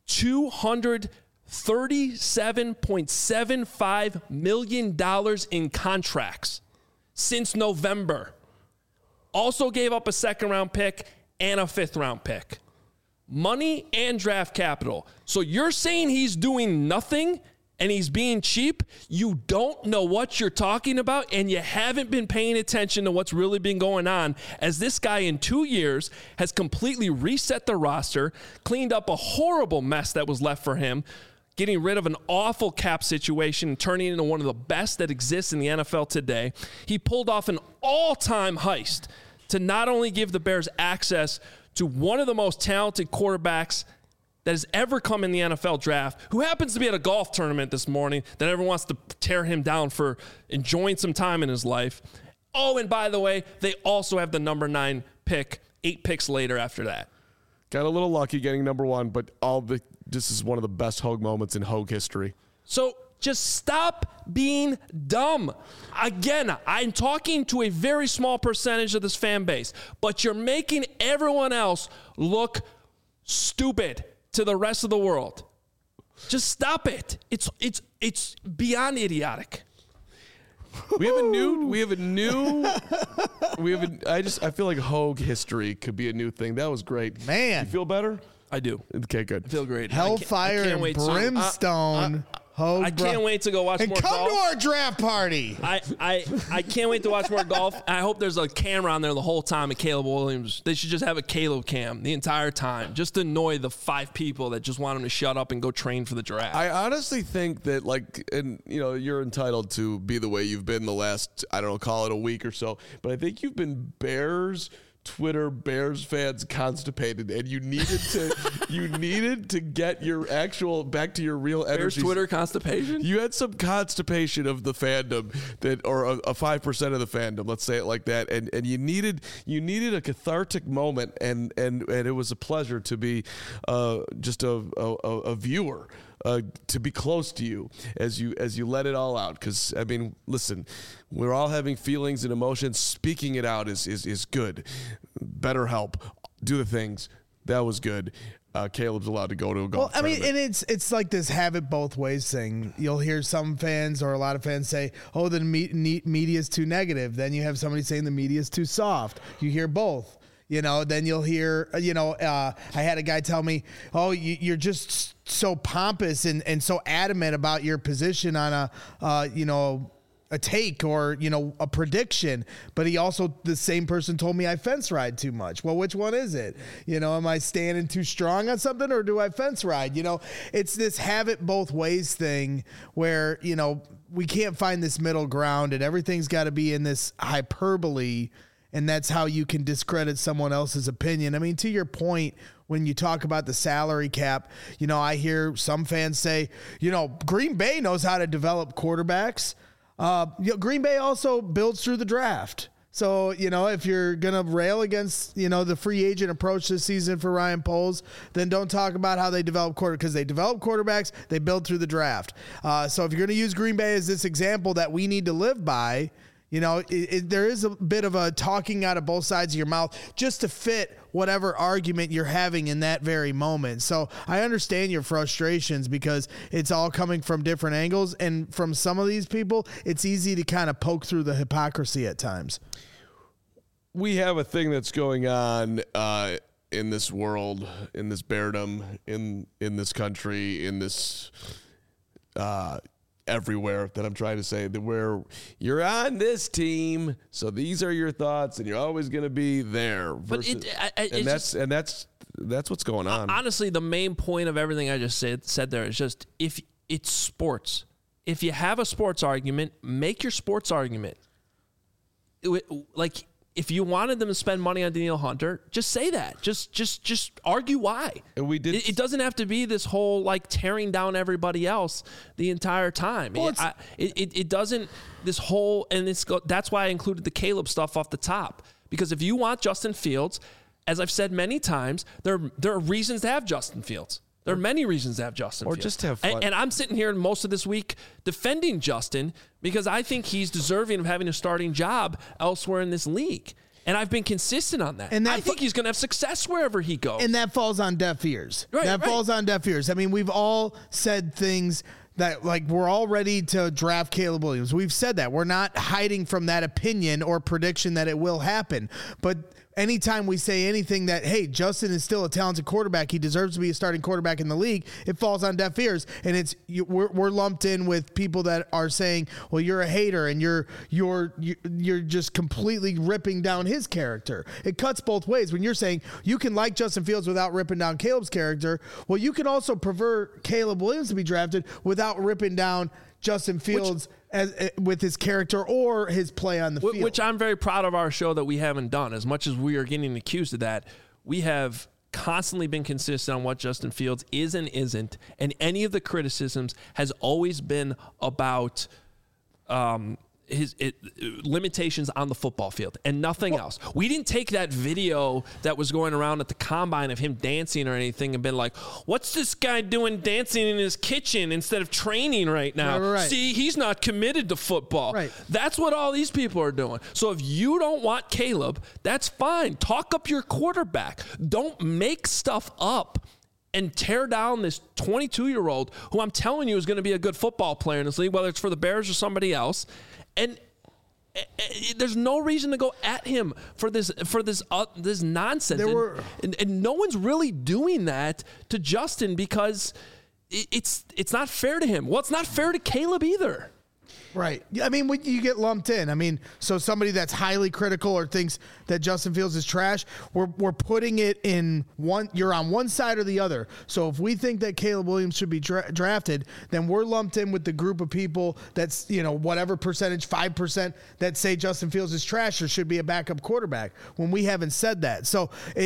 $237.75 million in contracts since November. Also gave up a second-round pick and a fifth-round pick. Money and draft capital. So you're saying he's doing nothing and he's being cheap? You don't know what you're talking about, and you haven't been paying attention to what's really been going on, as this guy in 2 years has completely reset the roster, cleaned up a horrible mess that was left for him, getting rid of an awful cap situation and turning it into one of the best that exists in the NFL today. He pulled off an all-time heist to not only give the Bears access to one of the most talented quarterbacks that has ever come in the NFL draft, who happens to be at a golf tournament this morning that everyone wants to tear him down for enjoying some time in his life. Oh, and by the way, they also have the number 9 pick 8 picks later after that. Got a little lucky getting number 1, but this is one of the best Hogue moments in Hogue history. So just stop being dumb. Again, I'm talking to a very small percentage of this fan base, but you're making everyone else look stupid to the rest of the world. Just stop it. It's beyond idiotic. I feel like Hogue history could be a new thing. That was great. Man. You feel better? I do. Okay, good. I feel great. Hellfire and brimstone. I can't wait to go watch more golf. And come to our draft party. I can't wait to watch more golf. I hope there's a camera on there the whole time at Caleb Williams. They should just have a Caleb cam the entire time, just to annoy the 5 people that just want him to shut up and go train for the draft. I honestly think that, like, and you're entitled to be the way you've been the last, I don't know, call it a week or so, but I think you've been Bears fans constipated, and you needed to get your actual back to your real energy. Bears Twitter constipation? You had some constipation of the fandom or a 5% of the fandom, let's say it like that, and you needed a cathartic moment, and it was a pleasure to be just a viewer. To be close to you as you let it all out, because I mean, listen, we're all having feelings and emotions. Speaking it out is good. Better help. Do the things. That was good. Caleb's allowed to go to a golf tournament. And it's like this have it both ways thing. You'll hear some fans or a lot of fans say, "Oh, the media is too negative." Then you have somebody saying the media is too soft. You hear both. Then you'll hear, I had a guy tell me, "Oh, you're just so pompous and so adamant about your position on a take or, a prediction." But he also, the same person told me I fence ride too much. Well, which one is it? Am I standing too strong on something, or do I fence ride? It's this have it both ways thing where, we can't find this middle ground, and everything's got to be in this hyperbole. And that's how you can discredit someone else's opinion. I mean, to your point, when you talk about the salary cap, I hear some fans say, Green Bay knows how to develop quarterbacks. Green Bay also builds through the draft. So, if you're going to rail against, the free agent approach this season for Ryan Poles, then don't talk about how they develop quarterbacks, because they develop quarterbacks, they build through the draft. So if you're going to use Green Bay as this example that we need to live by, there is a bit of a talking out of both sides of your mouth just to fit whatever argument you're having in that very moment. So I understand your frustrations, because it's all coming from different angles. And from some of these people, it's easy to kind of poke through the hypocrisy at times. We have a thing that's going on in this world, in this beardom, in this country, in this everywhere, that I'm trying to say, that where you're on this team, so these are your thoughts, and you're always going to be there. Versus, that's what's going on. Honestly, the main point of everything I just said there is just, if it's sports, if you have a sports argument, make your sports argument. Like, if you wanted them to spend money on Danielle Hunter, just say that. Just argue why. And we did. It doesn't have to be this whole tearing down everybody else the entire time. Well, it doesn't. This whole, and that's why I included the Caleb stuff off the top, because if you want Justin Fields, as I've said many times, there are reasons to have Justin Fields. There are many reasons to have Justin Fields. Or just have fun. And I'm sitting here most of this week defending Justin, because I think he's deserving of having a starting job elsewhere in this league. And I've been consistent on that. And I think he's going to have success wherever he goes. And that falls on deaf ears. Falls on deaf ears. I mean, we've all said things that, we're all ready to draft Caleb Williams. We've said that. We're not hiding from that opinion or prediction that it will happen. But anytime we say anything that, hey, Justin is still a talented quarterback, he deserves to be a starting quarterback in the league, it falls on deaf ears. And we're lumped in with people that are saying, well, you're a hater and you're just completely ripping down his character. It cuts both ways. When you're saying you can like Justin Fields without ripping down Caleb's character, well, you can also prefer Caleb Williams to be drafted without ripping down Justin Fields with his character or his play on the field. Which I'm very proud of our show that we haven't done. As much as we are getting accused of that, we have constantly been consistent on what Justin Fields is and isn't. And any of the criticisms has always been about his limitations on the football field and nothing else. We didn't take that video that was going around at the combine of him dancing or anything and been like, what's this guy doing dancing in his kitchen instead of training right now? Right. See, he's not committed to football. Right. That's what all these people are doing. So if you don't want Caleb, that's fine. Talk up your quarterback. Don't make stuff up and tear down this 22-year-old who I'm telling you is going to be a good football player in this league, whether it's for the Bears or somebody else. And there's no reason to go at him for this nonsense. And no one's really doing that to Justin because it's not fair to him. Well, it's not fair to Caleb either. Right. I mean, when you get lumped in, I mean, so somebody that's highly critical or thinks that Justin Fields is trash, we're putting it in one, you're on one side or the other. So if we think that Caleb Williams should be drafted, then we're lumped in with the group of people that's, whatever percentage, 5% that say Justin Fields is trash or should be a backup quarterback when we haven't said that. So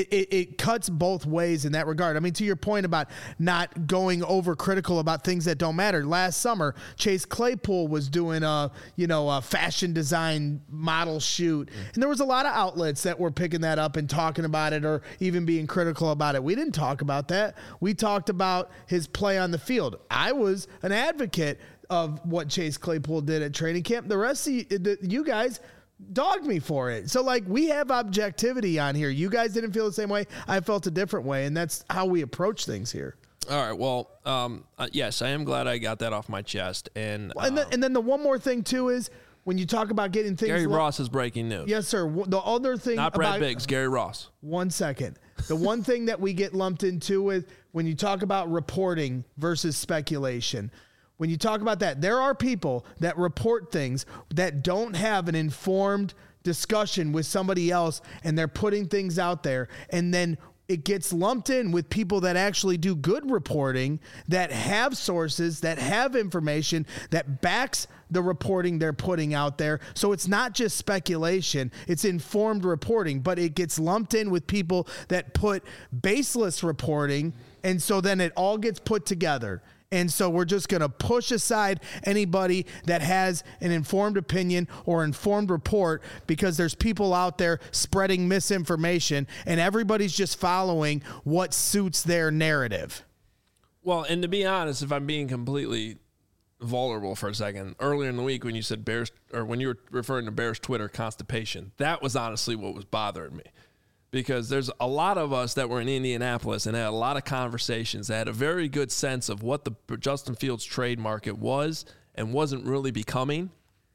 it cuts both ways in that regard. I mean, to your point about not going over critical about things that don't matter. Last summer, Chase Claypool was doing a fashion design model shoot. And there was a lot of outlets that were picking that up and talking about it or even being critical about it. We didn't talk about that. We talked about his play on the field. I was an advocate of what Chase Claypool did at training camp. The rest of you guys dogged me for it. So we have objectivity on here. You guys didn't feel the same way. I felt a different way. And that's how we approach things here. All right. Well, yes, I am glad I got that off my chest. And then the one more thing too is when you talk about getting things. Gary Ross is breaking news. Yes, sir. The other thing, not Brad Biggs, Gary Ross. 1 second. The one thing that we get lumped into with when you talk about reporting versus speculation. When you talk about that, there are people that report things that don't have an informed discussion with somebody else, and they're putting things out there, and then it gets lumped in with people that actually do good reporting, that have sources, that have information, that backs the reporting they're putting out there. So it's not just speculation, it's informed reporting, but it gets lumped in with people that put baseless reporting, and so then it all gets put together. And so we're just going to push aside anybody that has an informed opinion or informed report because there's people out there spreading misinformation and everybody's just following what suits their narrative. Well, and to be honest, if I'm being completely vulnerable for a second, earlier in the week when you said Bears, or when you were referring to Bears Twitter constipation, that was honestly what was bothering me. Because there's a lot of us that were in Indianapolis and had a lot of conversations that had a very good sense of what the Justin Fields trade market was and wasn't really becoming.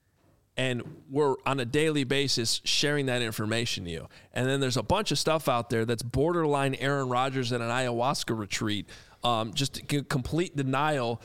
And we're on a daily basis sharing that information to you. And then there's a bunch of stuff out there that's borderline Aaron Rodgers at an ayahuasca retreat, just complete denial,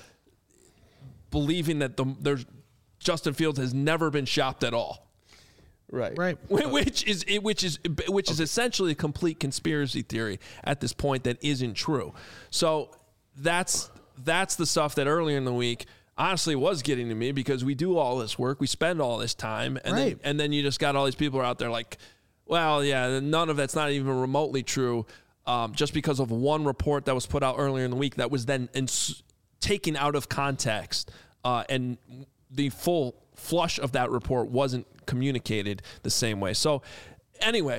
believing that Justin Fields has never been shopped at all. Right. Which is essentially a complete conspiracy theory at this point that isn't true. So that's the stuff that earlier in the week honestly was getting to me because we do all this work, we spend all this time, and then you just got all these people out there like, well, yeah, none of that's not even remotely true, just because of one report that was put out earlier in the week that was then taken out of context, and the full flush of that report wasn't communicated the same way. So anyway,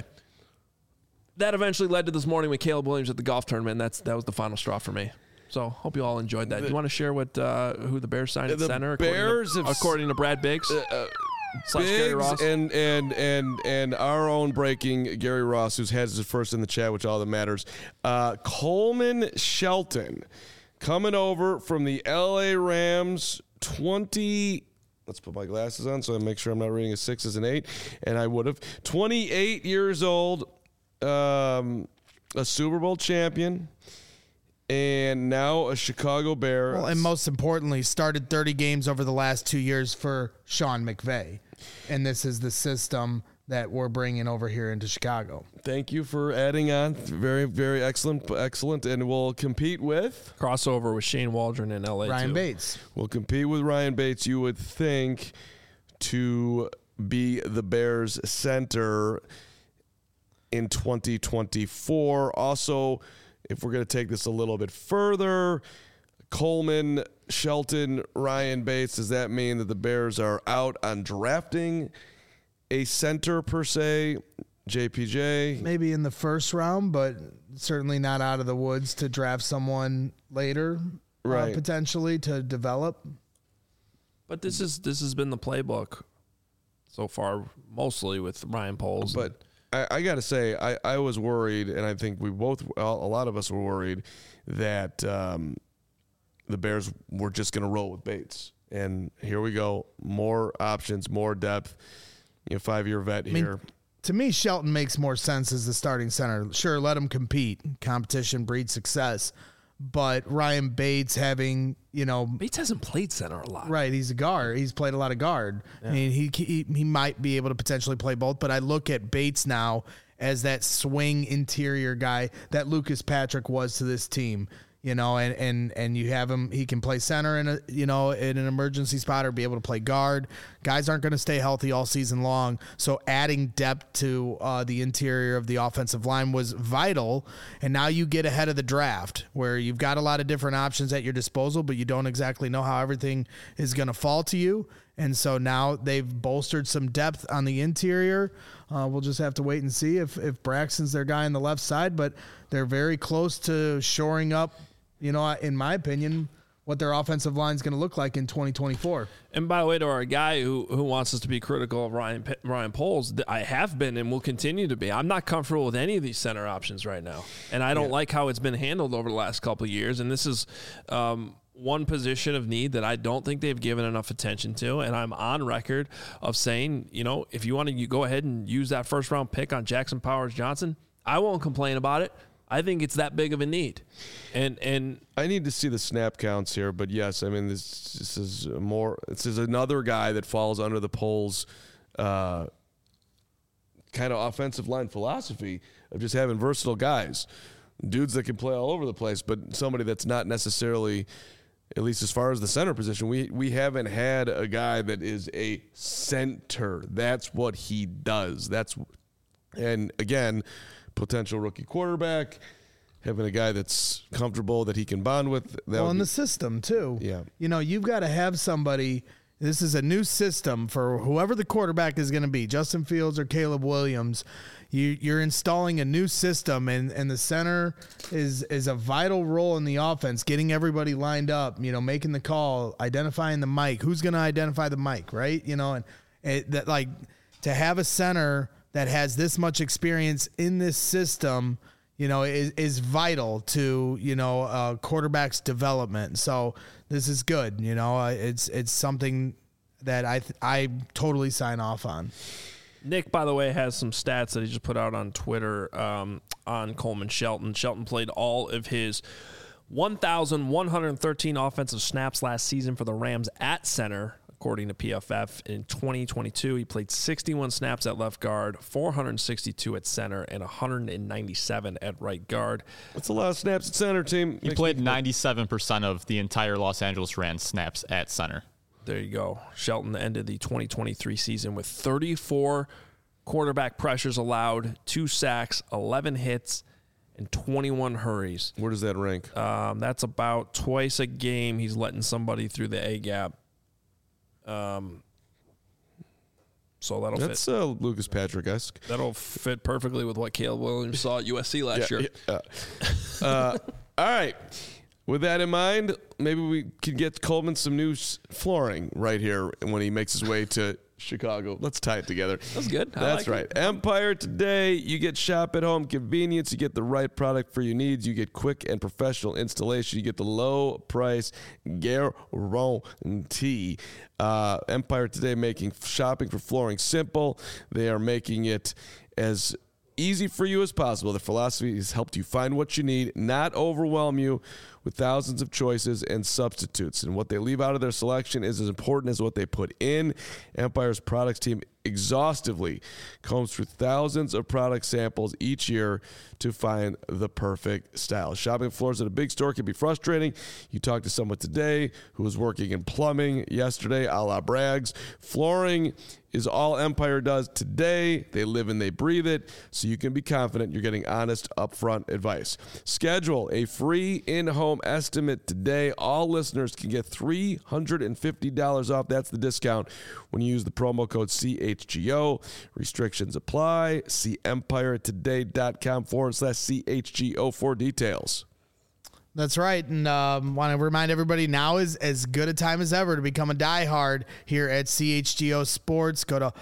that eventually led to this morning with Caleb Williams at the golf tournament. That was the final straw for me. So hope you all enjoyed that. Do you want to share who the Bears signed at center? According to Brad Biggs. Gary Ross. And our own breaking Gary Ross, who has his first in the chat, which all that matters. Coleman Shelton coming over from the LA Rams. Let's put my glasses on so I make sure I'm not reading a 6 as an 8, and I would have. 28 years old, a Super Bowl champion, and now a Chicago Bear. Well, and most importantly, started 30 games over the last 2 years for Sean McVay, and this is the system that we're bringing over here into Chicago. Thank you for adding on. Very, very excellent, and we'll compete with crossover with Shane Waldron in LA. Ryan Bates. We'll compete with Ryan Bates. You would think to be the Bears center in 2024. Also, if we're going to take this a little bit further, Coleman, Shelton, Ryan Bates. Does that mean that the Bears are out on drafting a center per se? JPJ? Maybe in the first round, but certainly not out of the woods to draft someone later, right? Potentially to develop. But this has been the playbook so far, mostly with Ryan Poles. But I got to say, I was worried, and I think a lot of us were worried that the Bears were just going to roll with Bates. And here we go. More options, more depth. 5-year vet here. To me, Shelton makes more sense as the starting center. Sure, let him compete. Competition breeds success. But Ryan Bates Bates hasn't played center a lot. Right, he's a guard. He's played a lot of guard. Yeah. I mean, he might be able to potentially play both, but I look at Bates now as that swing interior guy that Lucas Patrick was to this team. And you have him, he can play center in in an emergency spot or be able to play guard. Guys aren't going to stay healthy all season long. So adding depth to the interior of the offensive line was vital. And now you get ahead of the draft where you've got a lot of different options at your disposal, but you don't exactly know how everything is going to fall to you. And so now they've bolstered some depth on the interior. We'll just have to wait and see if Braxton's their guy on the left side, but they're very close to shoring up, in my opinion, what their offensive line is going to look like in 2024. And by the way, to our guy who wants us to be critical of Ryan Poles, I have been and will continue to be. I'm not comfortable with any of these center options right now, and I don't like how it's been handled over the last couple of years. And this is one position of need that I don't think they've given enough attention to. And I'm on record of saying, if you want to go ahead and use that first round pick on Jackson Powers Johnson, I won't complain about it. I think it's that big of a need. And I need to see the snap counts here, but yes, I mean, this is another guy that falls under the Poles kind of offensive line philosophy of just having versatile guys, dudes that can play all over the place, but somebody that's not necessarily, at least as far as the center position, we haven't had a guy that is a center. That's what he does. And again, potential rookie quarterback, having a guy that's comfortable that he can bond with. In the system too. Yeah. You've got to have somebody. This is a new system for whoever the quarterback is going to be, Justin Fields or Caleb Williams. You're installing a new system, and the center is a vital role in the offense, getting everybody lined up, making the call, identifying the mic. Who's going to identify the mic, right? To have a center that has this much experience in this system, is vital to, quarterback's development. So this is good. It's something that I totally sign off on. Nick, by the way, has some stats that he just put out on Twitter on Coleman Shelton. Shelton played all of his 1,113 offensive snaps last season for the Rams at center, according to PFF. In 2022, he played 61 snaps at left guard, 462 at center, and 197 at right guard. That's a lot of snaps at center, team. He played 97% of the entire Los Angeles Rams snaps at center. There you go. Shelton ended the 2023 season with 34 quarterback pressures allowed, 2 sacks, 11 hits, and 21 hurries. Where does that rank? That's about twice a game he's letting somebody through the A-gap. So that'll fit. That's Lucas Patrick-esque. That'll fit perfectly with what Caleb Williams saw at USC last year. Yeah. All right. With that in mind, maybe we can get Coleman some new flooring right here when he makes his way to Chicago. Let's tie it together. That's good. That's right. It. Empire Today, you get shop at home convenience. You get the right product for your needs. You get quick and professional installation. You get the low price guarantee. Empire Today making shopping for flooring simple. They are making it as easy for you as possible. The philosophy has helped you find what you need, not overwhelm you with thousands of choices and substitutes. And what they leave out of their selection is as important as what they put in. Empire's products team exhaustively combs through thousands of product samples each year to find the perfect style. Shopping floors at a big store can be frustrating. You talked to someone today who was working in plumbing yesterday, a la Braggs. Flooring is all Empire does today. They live and they breathe it, so you can be confident you're getting honest, upfront advice. Schedule a free in-home estimate today. All listeners can get $350 off. That's the discount when you use the promo code CHGO. Restrictions apply. See EmpireToday.com/CHGO for details. That's right. And want to remind everybody now is as good a time as ever to become a diehard here at CHGO Sports. Go to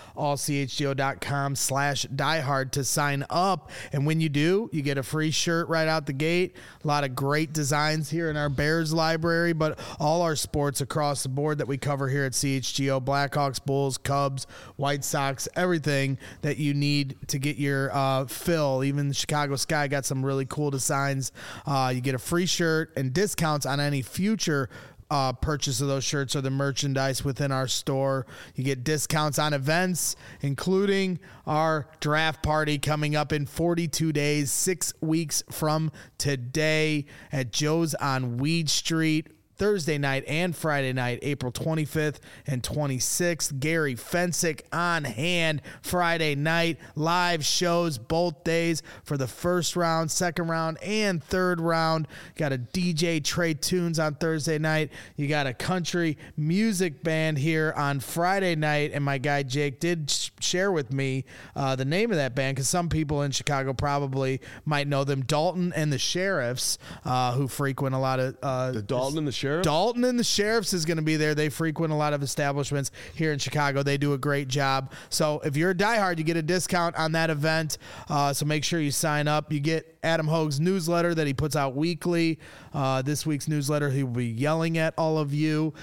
allchgo.com/diehard to sign up. And when you do, you get a free shirt right out the gate. A lot of great designs here in our Bears library, but all our sports across the board that we cover here at CHGO, Blackhawks, Bulls, Cubs, White Sox, everything that you need to get your fill. Even the Chicago Sky got some really cool designs. You get a free shirt and discounts on any future purchase of those shirts or the merchandise within our store. You get discounts on events, including our draft party coming up in 42 days, 6 weeks from today at Joe's on Weed Street. Thursday night and Friday night, April 25th and 26th. Gary Fensick on hand Friday night. Live shows both days for the first round, second round, and third round. Got a DJ Trey Tunes on Thursday night. You got a country music band here on Friday night, and my guy Jake did share with me the name of that band because some people in Chicago probably might know them. Dalton and the Sheriffs, who frequent a lot of The Dalton and the Sheriffs? Dalton and the Sheriffs is going to be there. They frequent a lot of establishments here in Chicago. They do a great job. So if you're a diehard, you get a discount on that event. So make sure you sign up. You get Adam Hogue's newsletter that he puts out weekly. This week's newsletter, he will be yelling at all of you.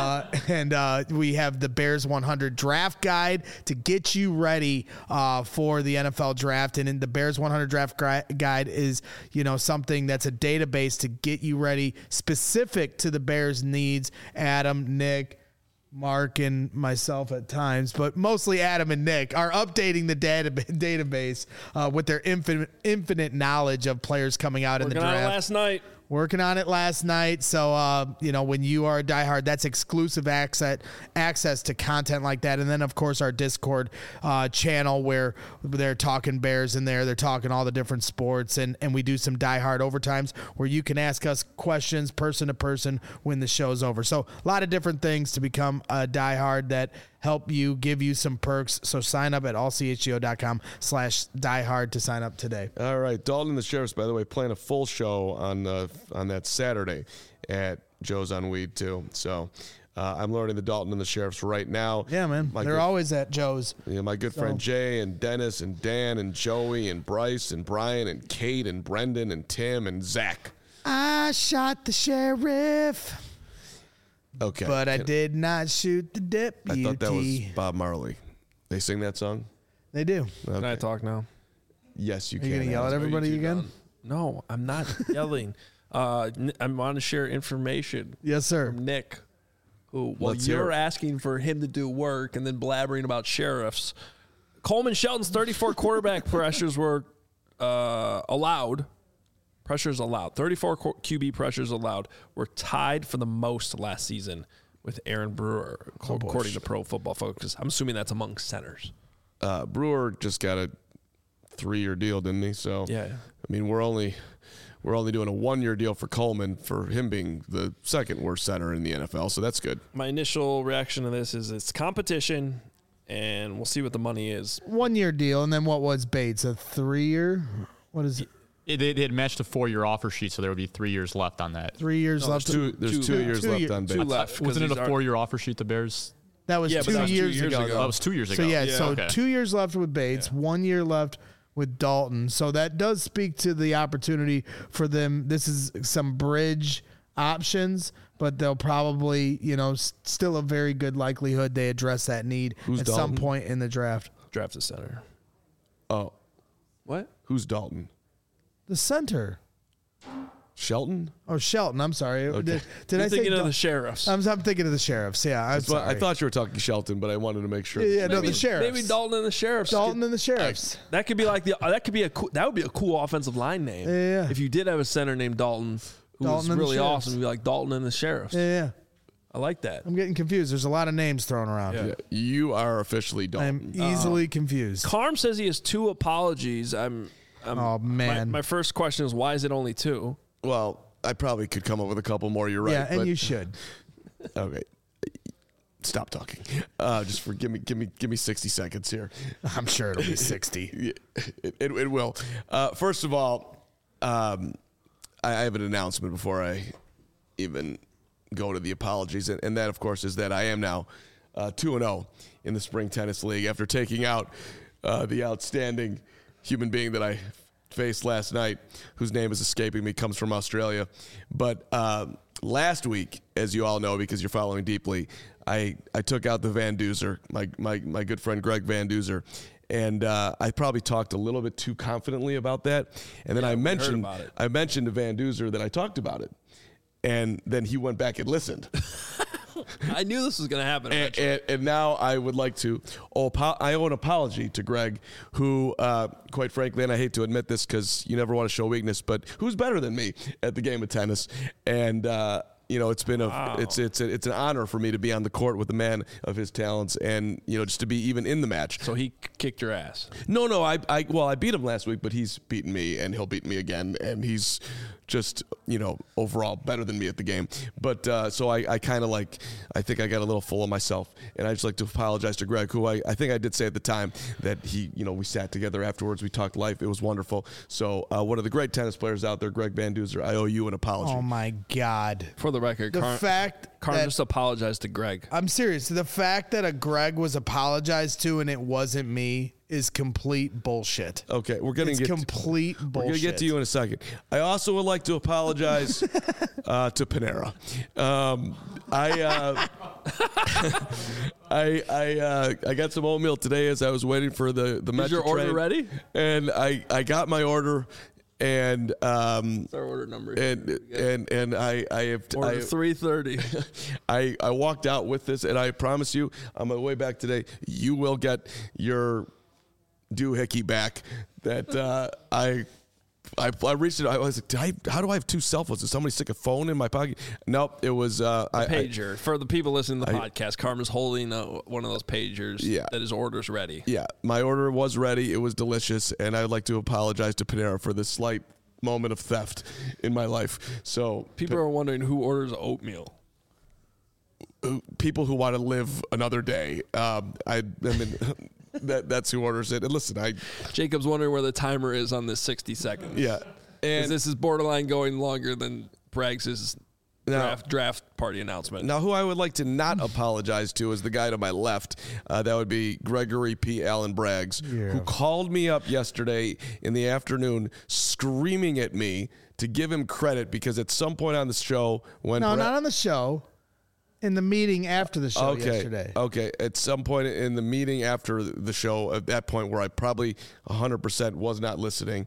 And we have the Bears 100 draft guide to get you ready for the NFL draft. And in the Bears 100 draft guide is, something that's a database to get you ready specific to the Bears' needs. Adam, Nick, Mark, and myself at times, but mostly Adam and Nick are updating the database with their infinite knowledge of players coming out in the draft. Working on it last night. So, when you are a diehard, that's exclusive access to content like that. And then, of course, our Discord channel where they're talking Bears in there. They're talking all the different sports. And we do some diehard overtimes where you can ask us questions person to person when the show's over. So a lot of different things to become a diehard that help you, give you some perks. So sign up at allchgo.com/diehard to sign up today. All right. Dalton and the Sheriffs, by the way, playing a full show on that Saturday at Joe's on Weed, too. So I'm learning the Dalton and the Sheriffs right now. Yeah, man. They're always at Joe's. Yeah, my good friend Jay and Dennis and Dan and Joey and Bryce and Brian and Kate and Brendan and Tim and Zach. I shot the sheriff. Okay. But I did not shoot the deputy. I thought that was Bob Marley. They sing that song? They do. Okay. Can I talk now? Yes, you Are you can. going to yell at everybody again? No, I'm not yelling. I want to share information. Yes, sir. From Nick, who, you're asking for him to do work and then blabbering about sheriffs. Coleman Shelton's 34 quarterback pressures were allowed. Pressures allowed. 34 QB pressures allowed were tied for the most last season with Aaron Brewer, according to Pro Football Focus. I'm assuming that's among centers. Brewer just got a 3-year deal, didn't he? So yeah. I mean, we're only doing a 1-year deal for Coleman for him being the second worst center in the NFL. So that's good. My initial reaction to this is it's competition, and we'll see what the money is. 1-year deal, and then what was Bates? A 3-year? What is it? They had matched a 4-year offer sheet, so there would be 3 years left on that. 3 years left. There's 2 years left on Bates. Wasn't it a 4-year offer sheet, the Bears? That was 2 years ago. That was 2 years ago. So okay. 2 years left with Bates, 1 year left with Dalton. So that does speak to the opportunity for them. This is some bridge options, but they'll probably, still a very good likelihood they address that need at some point in the draft. Draft the center. Oh. What? Who's Dalton? The center. Shelton? Oh, Shelton. I'm sorry. Okay. Did I say thinking of the Sheriffs? I'm thinking of the Sheriffs. Yeah, I'm sorry. I thought you were talking Shelton, but I wanted to make sure. Yeah, the Sheriffs. Maybe Dalton and the Sheriffs. Dalton and the Sheriffs. That could be like that would be a cool offensive line name. Yeah. If you did have a center named Dalton, who was really awesome, it'd be like Dalton and the Sheriffs. Yeah. I like that. I'm getting confused. There's a lot of names thrown around. Yeah. You are officially Dalton. I'm easily confused. Carm says he has 2 apologies. Oh, man. My first question is, why is it only 2? Well, I probably could come up with a couple more. You're right. Yeah, and you should. Okay. Stop talking. Give me 60 seconds here. I'm sure it'll be 60. It will. First of all, have an announcement before I even go to the apologies, and that, of course, is that I am now 2-0 in the Spring Tennis League after taking out the outstanding human being that I faced last night, whose name is escaping me, comes from Australia. But last week, as you all know, because you're following deeply, I took out the Van Duzer, my good friend Greg Van Duzer. And I probably talked a little bit too confidently about that. And then I mentioned to Van Duzer that I talked about it. And then he went back and listened. I knew this was going to happen. And now I would like to I owe an apology to Greg, who, quite frankly, and I hate to admit this because you never want to show weakness, but who's better than me at the game of tennis. And it's been it's an honor for me to be on the court with a man of his talents, and just to be even in the match. So he kicked your ass. No, I beat him last week, but he's beaten me, and he'll beat me again, and he's just overall better than me at the game. But so I kind of I think I got a little full of myself, and I just like to apologize to Greg, who I think I did say at the time that he we sat together afterwards, we talked life, it was wonderful. So one of the great tennis players out there, Greg Van Duzer, I owe you an apology. Oh my God! For the record, Carm just apologized to Greg. I'm serious. The fact that a Greg was apologized to and it wasn't me is complete bullshit. Okay, we're going to get complete bullshit. We're going to get to you in a second. I also would like to apologize to Panera. I got some oatmeal today as I was waiting for the Metro Is your order train, ready? And I got my order. And what's our order number? And I have order 330. I walked out with this, and I promise you, on my way back today, you will get your doohickey back. That I reached it. I was like, how do I have two cell phones? Did somebody stick a phone in my pocket? Nope, it was a pager. For the people listening to the podcast, Carmen's holding one of those pagers that his order's ready. Yeah, my order was ready. It was delicious, and I'd like to apologize to Panera for this slight moment of theft in my life. So people are wondering who orders oatmeal. People who want to live another day. That's who orders it. And listen, Jacob's wondering where the timer is on this 60 seconds. Yeah. And this is borderline going longer than Braggs' draft party announcement. Now, who I would like to not apologize to is the guy to my left. That would be Gregory P. Allen Braggs, who called me up yesterday in the afternoon screaming at me to give him credit because at some point on the show when not on the show. In the meeting after the show yesterday. Okay. At some point in the meeting after the show, at that point where I probably 100% was not listening,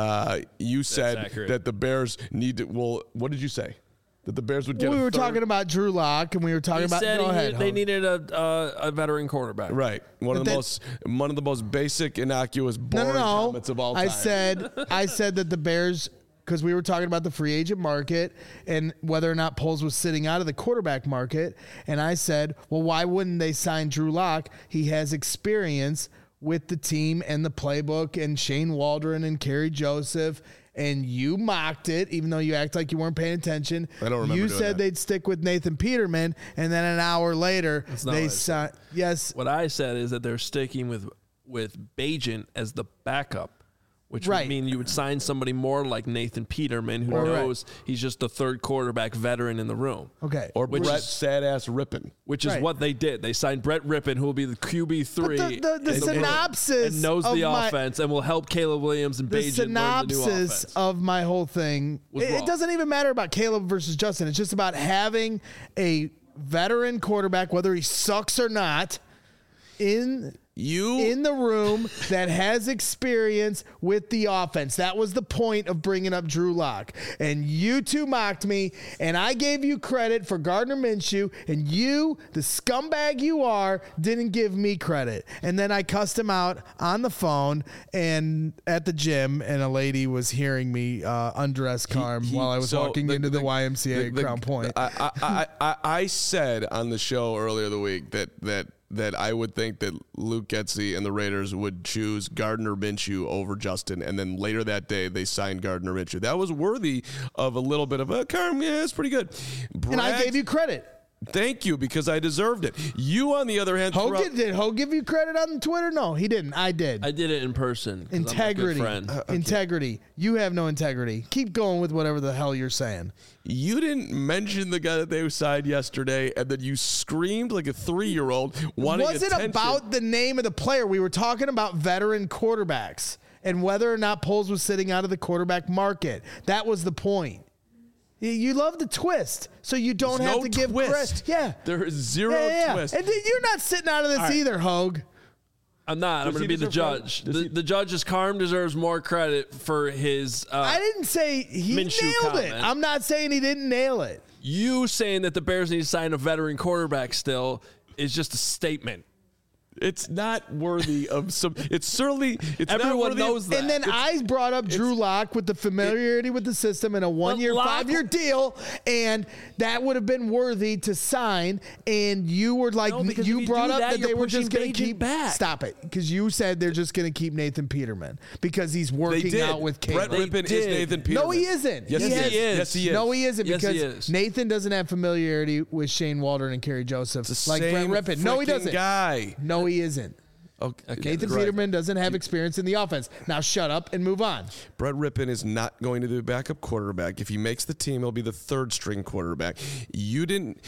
you said that the Bears need to. Well, what did you say? That the Bears would get. We were talking about Drew Lock, and we were talking about. They needed a veteran quarterback. Right. One of the most basic, innocuous, boring comments of all time. I said that the Bears. Because we were talking about the free agent market and whether or not Poles was sitting out of the quarterback market. And I said, well, why wouldn't they sign Drew Lock? He has experience with the team and the playbook and Shane Waldron and Kerry Joseph. And you mocked it, even though you act like you weren't paying attention. I don't remember. You said they'd stick with Nathan Peterman. And then an hour later, they signed. Yes. What I said is that they're sticking with Bagent as the backup. Which would mean you would sign somebody more like Nathan Peterman, who knows he's just the third quarterback veteran in the room. Okay. Or Brett Sad-Ass Rippin. Which is what they did. They signed Brett Rippin, who will be the QB3. But the synopsis and knows the offense and will help Caleb Williams and Bagent learn the new offense. The synopsis of my whole thing, it doesn't even matter about Caleb versus Justin. It's just about having a veteran quarterback, whether he sucks or not, in the room that has experience with the offense. That was the point of bringing up Drew Lock. And you two mocked me, and I gave you credit for Gardner Minshew, and you, the scumbag you are, didn't give me credit. And then I cussed him out on the phone and at the gym, and a lady was hearing me undress Carm while I was walking into the YMCA at Crown Point. I said on the show earlier the week that I would think that Luke Getsy and the Raiders would choose Gardner Minshew over Justin, and then later that day they signed Gardner Minshew. That was worthy of a little bit of a Carm. Yeah, it's pretty good. And I gave you credit. Thank you, because I deserved it. You, on the other hand, Did Hogue give you credit on Twitter? No, he didn't. I did. I did it in person. Integrity. I'm a good friend. Integrity. You have no integrity. Keep going with whatever the hell you're saying. You didn't mention the guy that they signed yesterday, and then you screamed like a 3-year-old wanting attention. It wasn't about the name of the player. We were talking about veteran quarterbacks and whether or not Poles was sitting out of the quarterback market. That was the point. You love the twist, so you don't have to give credit. Yeah. There is zero twist. And you're not sitting out of this either, Hogue. I'm not. I'm going to be the judge. The judge's Carm deserves more credit for his I didn't say he Minshew nailed comment. it. I'm not saying he didn't nail it. You saying that the Bears need to sign a veteran quarterback still is just a statement. It's not worthy of some. It's certainly. Everyone knows that. And then I brought up Drew Lock with the familiarity with the system and a 1-year, 5-year deal, and that would have been worthy to sign. And you were like, you brought up that they were just going to keep back. Stop it, because you said they're just going to keep Nathan Peterman because he's working out with Caleb. Brett Rippon is Nathan Peterman. No, he isn't. Yes, he is. Yes, he is. No, he isn't, Yes, he because is. Nathan doesn't have familiarity with Shane Waldron and Kerry Joseph like Brett Rippon. No, he doesn't. Guy. No, he isn't. Okay, Nathan Peterman doesn't have experience in the offense. Now shut up and move on. Brett Rippon is not going to be the backup quarterback. If he makes the team, he'll be the 3rd-string quarterback. You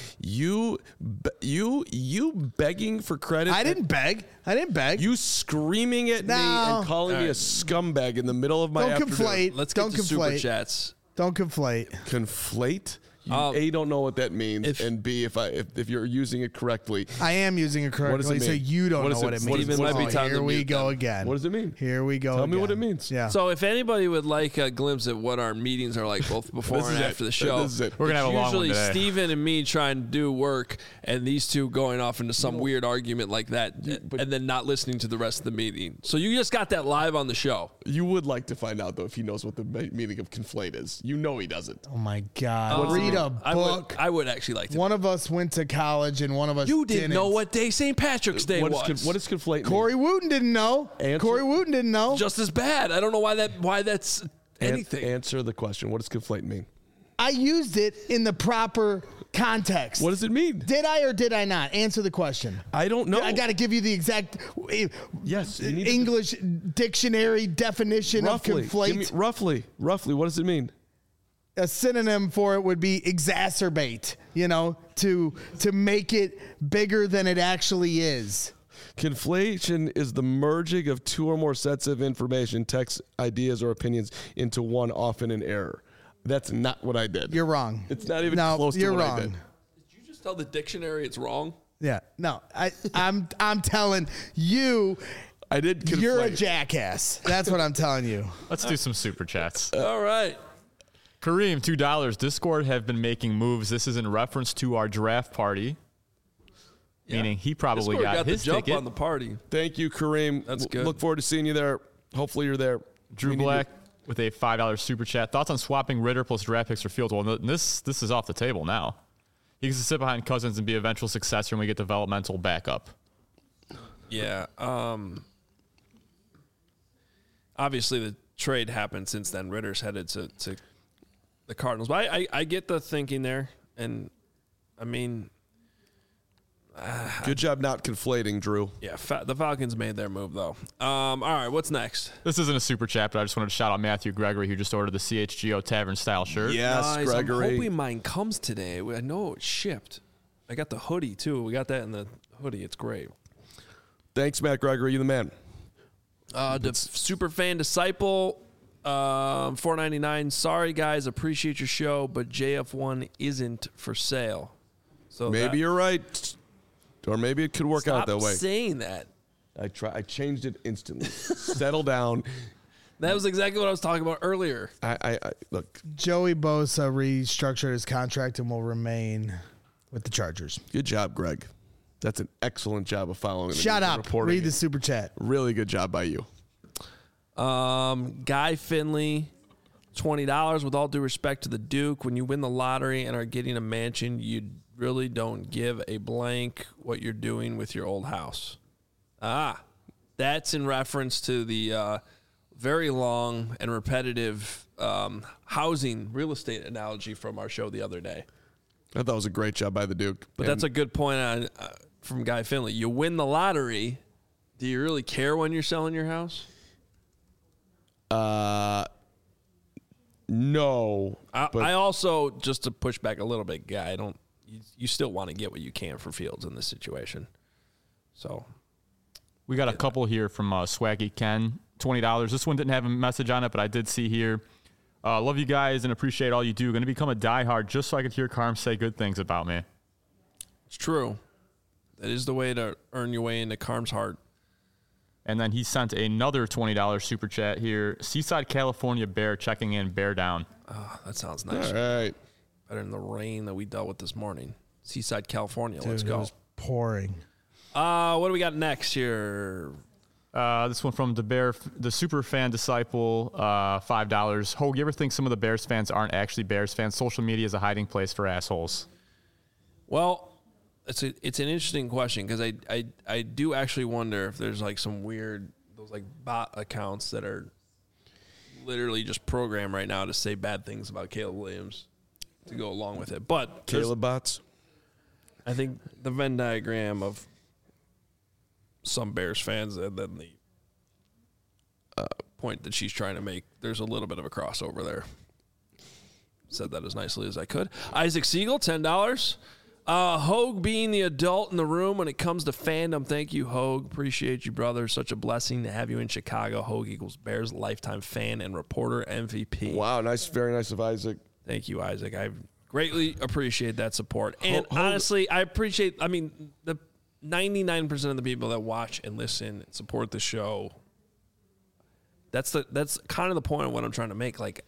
begging for credit. I didn't beg. You screaming at me and calling me a scumbag in the middle of my afternoon. Conflate. Let's get to Super Chats. Don't conflate. Conflate? You A, don't know what that means, and B, if you're using it correctly. I am using it correctly, What does it mean? so you don't know what it means. Steven might be time to Here we mute go them. again. What does it mean? Here we go Tell again. me what it means. Yeah. So if anybody would like a glimpse at what our meetings are like both before This and is after it. the show, This is it. We're gonna have a long one usually today. Steven and me trying to do work and these two going off into some weird argument like that and then not listening to the rest of the meeting. So you just got that live on the show. You would like to find out, though, if he knows what the meaning of conflate is. You know he doesn't. Oh my God. Read a book. I would actually like to. One of us went to college and one of us You didn't know what day St. Patrick's Day was. What does conflate mean? Corey Wooten didn't know. Corey Wooten didn't know. Just as bad. I don't know why that's anything. Answer the question. What does conflate mean? I used it in the proper context. What does it mean? Did I or did I not? Answer the question. I don't know. I got to give you the exact Yes, you need to- English dictionary definition of conflate. Roughly, what does it mean? A synonym for it would be exacerbate, to make it bigger than it actually is. Conflation is the merging of two or more sets of information, text, ideas, or opinions into one, often in error. That's not what I did. You're wrong. It's not even close to what I did. Did you just tell the dictionary it's wrong? Yeah. No, I'm telling you, I did conflate. you're a jackass. That's what I'm telling you. Let's do some super chats. All right. Kareem, $2. Discord have been making moves. This is in reference to our draft party. Meaning he probably Discord got his the jump ticket. on the party. Thank you, Kareem. That's good. Look forward to seeing you there. Hopefully you're there. Drew Black with a $5 super chat. Thoughts on swapping Ritter plus draft picks for Fields? Well, this is off the table now. He gets to sit behind Cousins and be eventual successor, and we get developmental backup. Yeah. Obviously, the trade happened since then. Ritter's headed to the Cardinals. But I get the thinking there. And, I mean, Good job not conflating, Drew. yeah, the Falcons made their move, though. All right, what's next? This isn't a super chat, but I just wanted to shout out Matthew Gregory, who just ordered the CHGO Tavern style shirt. Yes, Nice. Gregory. I'm hoping mine comes today. I know it's shipped. I got the hoodie, too. We got that in the hoodie. It's great. Thanks, Matt Gregory. You the man. The super fan disciple, $4.99. Sorry, guys, appreciate your show, but JF1 isn't for sale. So Maybe you're right. Or maybe it could work out that way. Stop saying that. I changed it instantly. Settle down. That was exactly what I was talking about earlier. I look. Joey Bosa restructured his contract and will remain with the Chargers. Good job, Greg. That's an excellent job of following. Shut up. Reporting Read the it. super chat. Really good job by you. Guy Finley, $20. With all due respect to the Duke, when you win the lottery and are getting a mansion, you really don't give a blank what you're doing with your old house. That's in reference to the very long and repetitive housing real estate analogy from our show the other day. I thought it was a great job by the Duke. But that's a good point on, from Guy Finley. You win the lottery. Do you really care when you're selling your house? No. I also, just to push back a little bit, Guy, you still want to get what you can for Fields in this situation. So we got a couple here from Swaggy Ken, $20. This one didn't have a message on it, but I did see here. Love you guys and appreciate all you do. Going to become a diehard just so I could hear Carm say good things about me. It's true. That is the way to earn your way into Carm's heart. And then he sent another $20 super chat here. Seaside, California Bear checking in, bear down. Oh, that sounds nice. All right. Better than the rain that we dealt with this morning. Seaside, California. Dude, Let's go. It was pouring. What do we got next here? This one from the super fan disciple, $5. Hogue, you ever think some of the Bears fans aren't actually Bears fans? Social media is a hiding place for assholes. Well, it's an interesting question because I do actually wonder if there's like some weird those like bot accounts that are literally just programmed right now to say bad things about Caleb Williams to go along with it. But Caleb bots. I think the Venn diagram of some Bears fans and then the point that she's trying to make, there's a little bit of a crossover there. Said that as nicely as I could. Isaac Siegel, $10. Hogue being the adult in the room when it comes to fandom. Thank you, Hogue. Appreciate you, brother. Such a blessing to have you in Chicago. Hogue equals Bears lifetime fan and reporter MVP. Wow, nice, very nice of Isaac. Thank you, Isaac. I greatly appreciate that support. And honestly, I appreciate, the 99% of the people that watch and listen and support the show, that's kind of the point of what I'm trying to make. Like,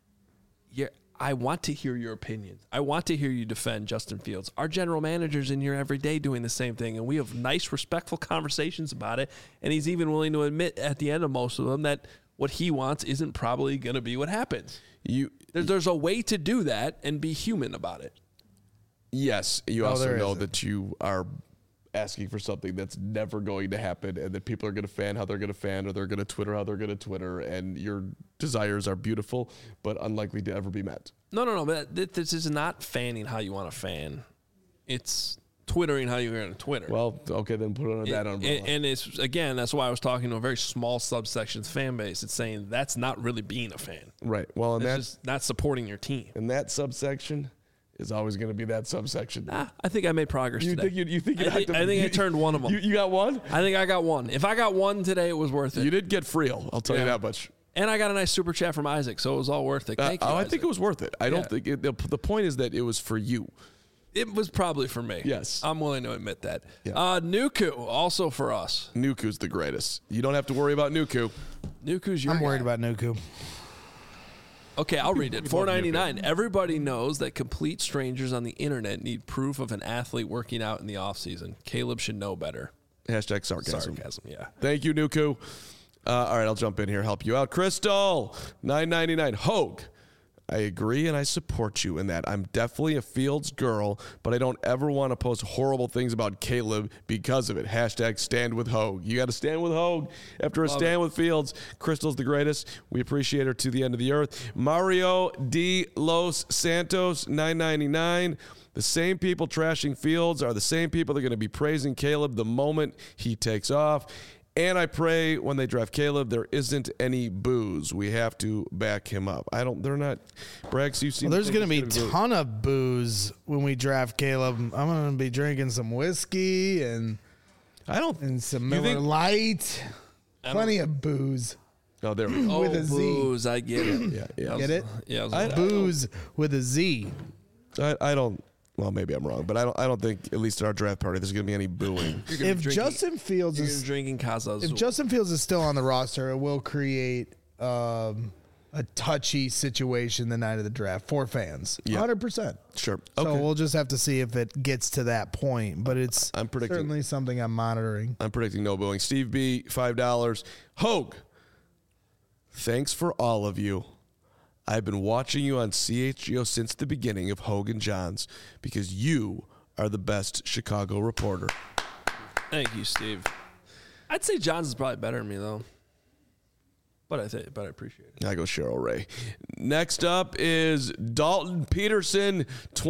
I want to hear your opinions. I want to hear you defend Justin Fields. Our general manager's in here every day doing the same thing, and we have nice, respectful conversations about it, and he's even willing to admit at the end of most of them that what he wants isn't probably going to be what happens. There's a way to do that and be human about it. Yes, you also know that you are asking for something that's never going to happen and that people are going to fan how they're going to fan or they're going to Twitter how they're going to Twitter, and your desires are beautiful but unlikely to ever be met. No. But this is not fanning how you want to fan. It's Twittering how you're going to Twitter. Well, okay, then put it on that umbrella. And it's, again, that's why I was talking to a very small subsection fan base. It's saying that's not really being a fan. Right. Well, and that's just not supporting your team. And that subsection is always going to be that subsection. I think I made progress today. You think I think I turned one of them. You got one? I think I got one. If I got one today, it was worth it. You did get Friel, I'll tell you that much. And I got a nice super chat from Isaac, so it was all worth it. Thank you, I Isaac. think it was worth it. I don't think the point is that it was for you. It was probably for me. Yes. I'm willing to admit that. Yeah. Nuku, also for us. Nuku's the greatest. You don't have to worry about Nuku. Nuku's your I'm worried guy. about Nuku. Okay, I'll read it. $4.99. Everybody knows that complete strangers on the internet need proof of an athlete working out in the offseason. Caleb should know better. Hashtag sarcasm. Yeah. Thank you, Nuku. All right, I'll jump in here, help you out. Crystal, $9.99. Hogue, I agree and I support you in that. I'm definitely a Fields girl, but I don't ever want to post horrible things about Caleb because of it. Hashtag stand with Hogue. You got to stand with Hogue after a stand with Fields. Crystal's the greatest. We appreciate her to the end of the earth. Mario D. Los Santos, $9.99. The same people trashing Fields are the same people that are going to be praising Caleb the moment he takes off. And I pray when they draft Caleb, there isn't any booze. We have to back him up. They're not. Brax, you see. Well, there's going to be a ton of booze when we draft Caleb. I'm going to be drinking some whiskey and some Miller Lite. Plenty of booze. Oh, there we go. With a Z. Booze, I get it. Yeah. Get it? Yeah. Booze with a Z. I don't. Well, maybe I'm wrong, but I don't think, at least at our draft party, there's going to be any booing. If Justin Fields is drinking Casa Azul. If Justin Fields is still on the roster, it will create a touchy situation the night of the draft for fans. 100%. Sure. So Okay. we'll just have to see if it gets to that point, but it's certainly something I'm monitoring. I'm predicting no booing. Steve B, $5. Hogue, thanks for all of you. I've been watching you on CHGO since the beginning of Hogue and Johns because you are the best Chicago reporter. Thank you, Steve. I'd say Johns is probably better than me, though. But I appreciate it. I go Cheryl Ray. Next up is Dalton Peterson,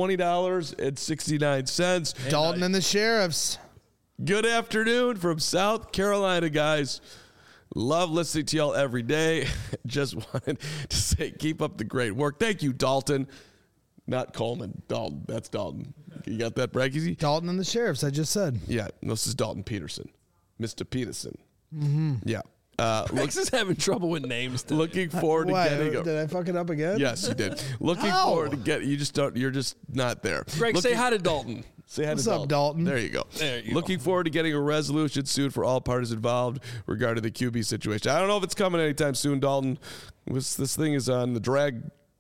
$20.69. Dalton and the Sheriffs. Good afternoon from South Carolina, guys. Love listening to y'all every day. Just wanted to say keep up the great work. Thank you, Dalton. Not Coleman. Dalton. That's Dalton. You got that, Braggy? Dalton and the Sheriffs, I just said. Yeah, this is Dalton Peterson. Mr. Peterson. Yeah. Rex is having trouble with names today. Looking forward to getting Did I fuck it up again? Yes, you did. Looking forward to get. You just don't. You're just not there. Greg, say hi to Dalton. Say hi What's to up, Dalton? There you go. There you Looking forward to getting a resolution soon for all parties involved regarding the QB situation. I don't know if it's coming anytime soon, Dalton. This thing is on the drag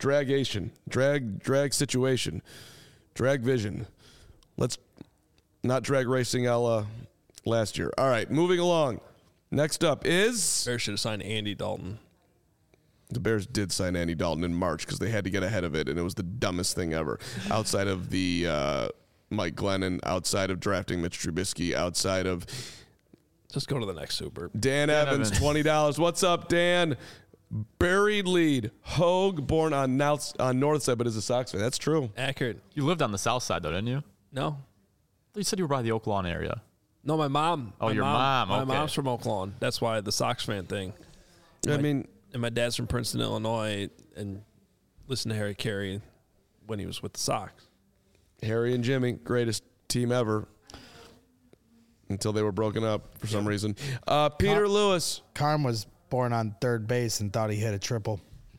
situation, drag vision. Let's not drag racing a la last year. All right, moving along. Next up is Bears should have signed Andy Dalton. the Bears did sign Andy Dalton in March because they had to get ahead of it, and it was the dumbest thing ever. Outside of the Mike Glennon, outside of drafting Mitch Trubisky, outside of Just go to the next Super. Dan Evans, $20. What's up, Dan? Buried lead. Hogue, born on North Side, but is a Sox fan. That's true. Accurate. You lived on the south side, though, didn't you? No. You said you were by the Oak Lawn area. No, my mom. Oh, your mom. My Okay. mom's from Oak Lawn. That's why the Sox fan thing. I mean, And my dad's from Princeton, Illinois, and listened to Harry Carey when he was with the Sox. Harry and Jimmy, greatest team ever. Until they were broken up for some reason. Peter Lewis. Carm was born on third base and thought he hit a triple.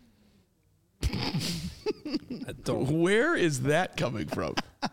Where is that coming from?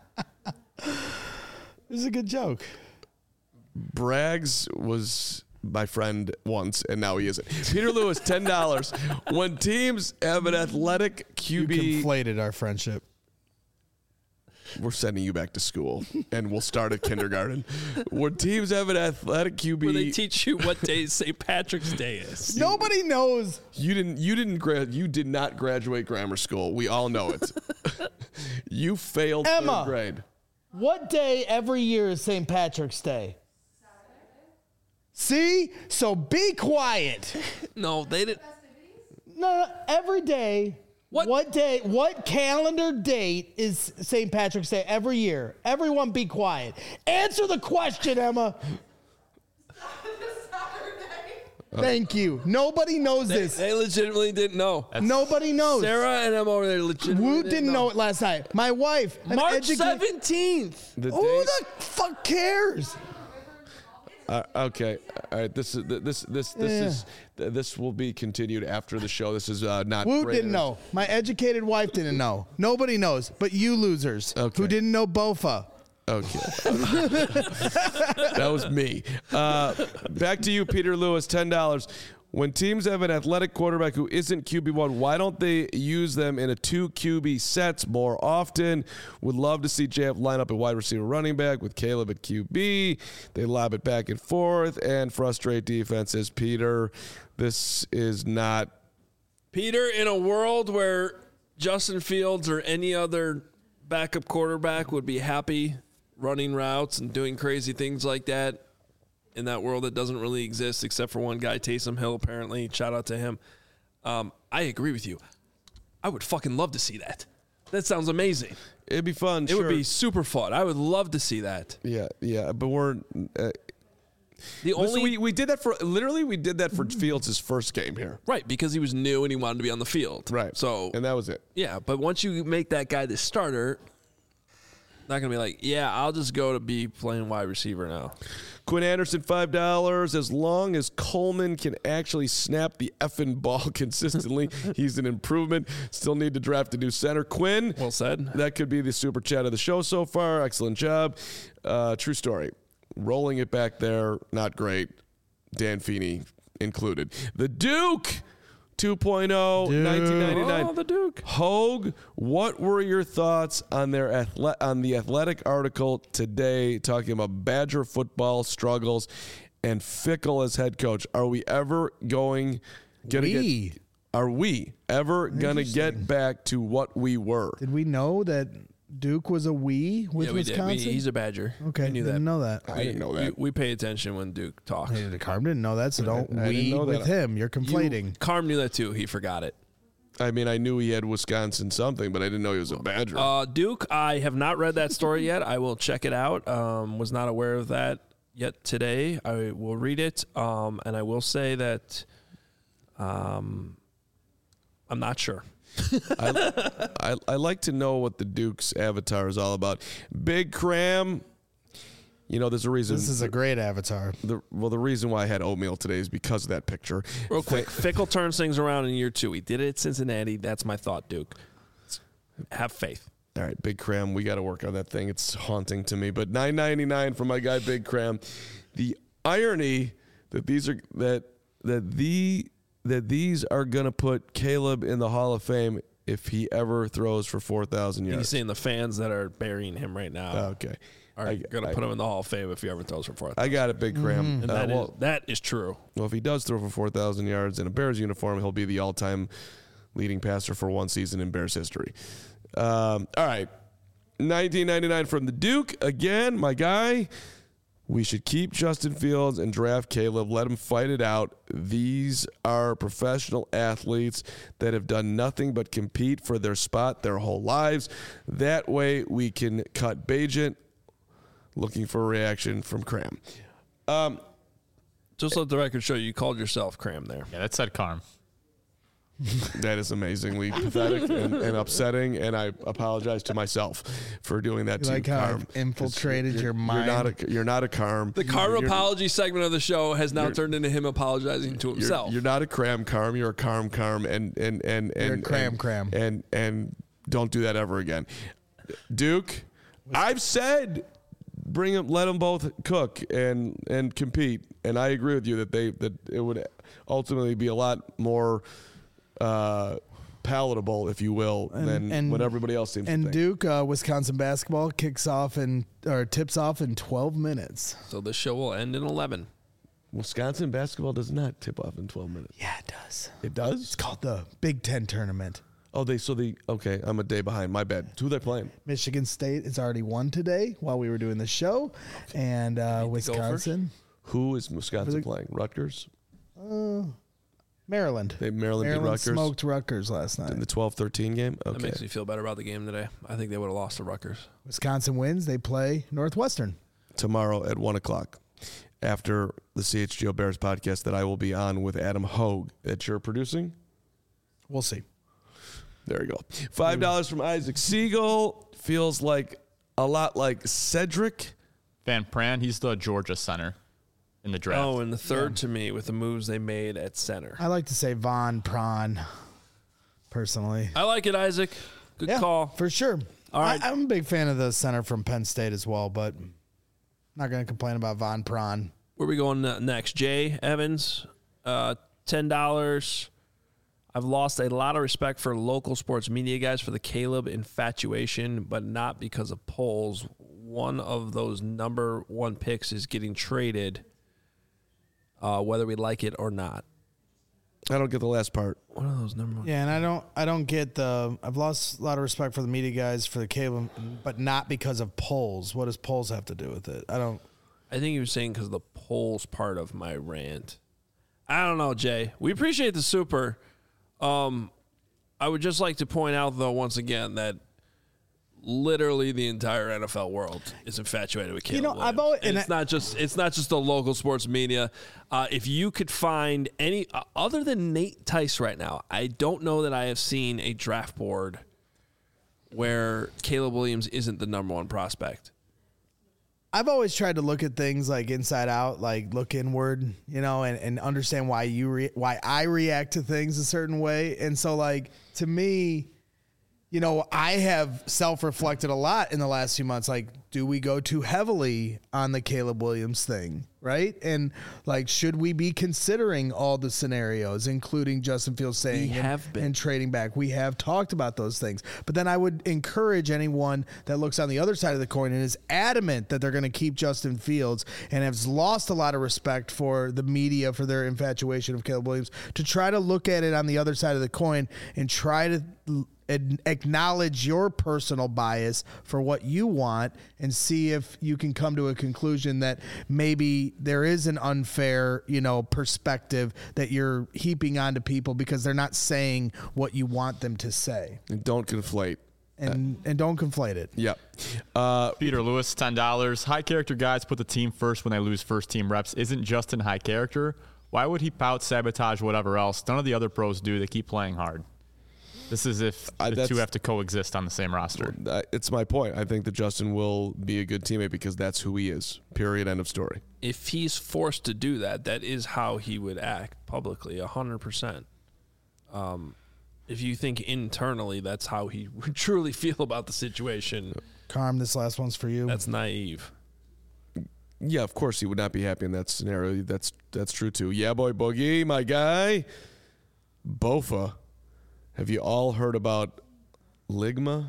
This is a good joke. Braggs was my friend once, and now he isn't. Peter Lewis, $10. When teams have an athletic You QB, conflated our friendship. we're sending you back to school, and we'll start at kindergarten. When teams have an athletic QB, Where they teach you what day St. Patrick's Day is. Nobody knows. you did not graduate grammar school. We all know it. You failed Emma. third grade. What day every year is St. Patrick's Day? See? So be quiet. No, they didn't. No, every day. What calendar date is St. Patrick's Day every year? Everyone be quiet. Answer the question, Emma. Thank you. Nobody knows this. They legitimately didn't know. Nobody knows. Sarah and Emma over there legitimately Woot didn't know it last night. My wife. an March educa- 17th. The Who date- the fuck cares? Okay, all right. This will be continued after the show. This is not. Woot great didn't know. My educated wife didn't know. Nobody knows, but you losers who didn't know Bofa. Okay, that was me. Back to you, Peter Lewis. $10. When teams have an athletic quarterback who isn't QB1, why don't they use them in a 2 QB sets more often? Would love to see JF line up a wide receiver running back with Caleb at QB. They lob it back and forth and frustrate defenses. Peter, this is not. Peter, in a world where Justin Fields or any other backup quarterback would be happy running routes and doing crazy things like that, in that world that doesn't really exist except for one guy, Taysom Hill, apparently. Shout out to him. I agree with you. I would fucking love to see that. That sounds amazing. It'd be fun. It would be super fun. I would love to see that. Yeah, but we're. We did that for Fields' first game here. Right, because he was new and he wanted to be on the field. Right. So and that was it. Yeah, but once you make that guy the starter, not gonna be like, yeah, I'll just go to be playing wide receiver now. Quinn Anderson, $5. As long as Coleman can actually snap the effing ball consistently, he's an improvement. Still need to draft a new center. Quinn, well said. That could be the super chat of the show so far. Excellent job. True story. Rolling it back there, not great. Dan Feeney included. The Duke, 2.0, 1999. Oh, the Duke. Hogue, what were your thoughts on the Athletic article today talking about Badger football struggles and Fickle as head coach? Are we ever going to get back to what we were? Did we know that Duke was a we with we did. Wisconsin? He's a Badger. Okay, we knew that. didn't know that. I didn't know that. We pay attention when Duke talks. Hey, Carm didn't know that, so don't I didn't we know with that. him. You're conflating. Carm knew that too. He forgot it. I mean, I knew he had Wisconsin something, but I didn't know he was a Badger. Duke, I have not read that story yet. I will check it out. Was not aware of that yet today. I will read it, and I will say that I'm not sure. I like to know what the Duke's avatar is all about. Big Cram. You know, there's a reason. This is a great avatar. The reason why I had oatmeal today is because of that picture. Real quick, Fickle turns things around in year 2. He did it at Cincinnati. That's my thought, Duke. Have faith. All right, Big Cram, we got to work on that thing. It's haunting to me. But $9.99 for my guy Big Cram. The irony that these are that these are gonna put Caleb in the Hall of Fame if he ever throws for 4,000 yards. He's saying the fans that are burying him right now Okay. are going to put him in the Hall of Fame if he ever throws for 4,000. I got it, Big Cram. And that is true. Well, if he does throw for 4,000 yards in a Bears uniform, he'll be the all-time leading passer for one season in Bears history. All right, $19.99 from the Duke. Again, my guy. We should keep Justin Fields and draft Caleb. Let him fight it out. These are professional athletes that have done nothing but compete for their spot their whole lives. That way we can cut Bagent. Looking for a reaction from Cram. Just let the record show you called yourself Cram there. Yeah, that said Carm. That is amazingly pathetic and upsetting, and I apologize to myself for doing that You to like you, how Carm. I've infiltrated your mind? You're not a Carm. The Carm apology segment of the show has now turned into him apologizing to himself. You're not a Cram, You're a Carm, and You're a Cram. And don't do that ever again. Duke, I've said bring them, let them both cook and compete, and I agree with you that it would ultimately be a lot more palatable, if you will, than what everybody else seems to think. And Duke, Wisconsin basketball tips off in 12 minutes. So this show will end in 11. Wisconsin basketball does not tip off in 12 minutes. Yeah, it does. It does? It's called the Big Ten tournament. Oh, okay, I'm a day behind. My bad. Who are they playing? Michigan State has already won today while we were doing the show. And Wisconsin. Who is Wisconsin playing? Rutgers? Maryland. Maryland beat Rutgers? Smoked Rutgers last night. In the 12-13 game? Okay. That makes me feel better about the game today. I think they would have lost to Rutgers. Wisconsin wins. They play Northwestern. Tomorrow at 1 o'clock after the CHGO Bears podcast that I will be on with Adam Hogue that you're producing. We'll see. There you go. $5 from Isaac Siegel. Feels like a lot like Cedric Van Pran, he's the Georgia center in the draft. Oh, and the third to me with the moves they made at center. I like to say Von Prawn, personally. I like it, Isaac. Good call. For sure. All right. I'm a big fan of the center from Penn State as well, but not going to complain about Von Prawn. Where are we going next? Jay Evans, $10. I've lost a lot of respect for local sports media guys for the Caleb infatuation, but not because of polls. One of those number one picks is getting traded, whether we like it or not. I don't get the last part. One of those number one. Yeah, and I don't get I've lost a lot of respect for the media guys for the Caleb, but not because of polls. What does polls have to do with it? I think he was saying because of the polls part of my rant. I don't know, Jay. We appreciate the super. I would just like to point out, though, once again, that literally the entire NFL world is infatuated with Caleb Williams. It's not just the local sports media. If you could find any other than Nate Tice right now, I don't know that I have seen a draft board where Caleb Williams isn't the number one prospect. I've always tried to look at things like inside out, like look inward, and understand why why I react to things a certain way. And so, like, to me, I have self-reflected a lot in the last few months. Like, do we go too heavily on the Caleb Williams thing, right? And, like, should we be considering all the scenarios, including Justin Fields saying and trading back? We have talked about those things. But then I would encourage anyone that looks on the other side of the coin and is adamant that they're going to keep Justin Fields and has lost a lot of respect for the media for their infatuation of Caleb Williams to try to look at it on the other side of the coin and try to acknowledge your personal bias for what you want and see if you can come to a conclusion that maybe there is an unfair, perspective that you're heaping onto people because they're not saying what you want them to say. And don't conflate. And don't conflate it. Yep. Peter Lewis, $10. High character guys put the team first when they lose first team reps. Isn't Justin high character? Why would he pout, sabotage, whatever else? None of the other pros do. They keep playing hard. This is if the two have to coexist on the same roster. It's my point. I think that Justin will be a good teammate because that's who he is. Period. End of story. If he's forced to do that, that is how he would act publicly, 100%. If you think internally that's how he would truly feel about the situation. Carm, this last one's for you. That's naive. Yeah, of course he would not be happy in that scenario. That's true too. Yeah, boy, Boogie, my guy. Bofa. Have you all heard about Ligma?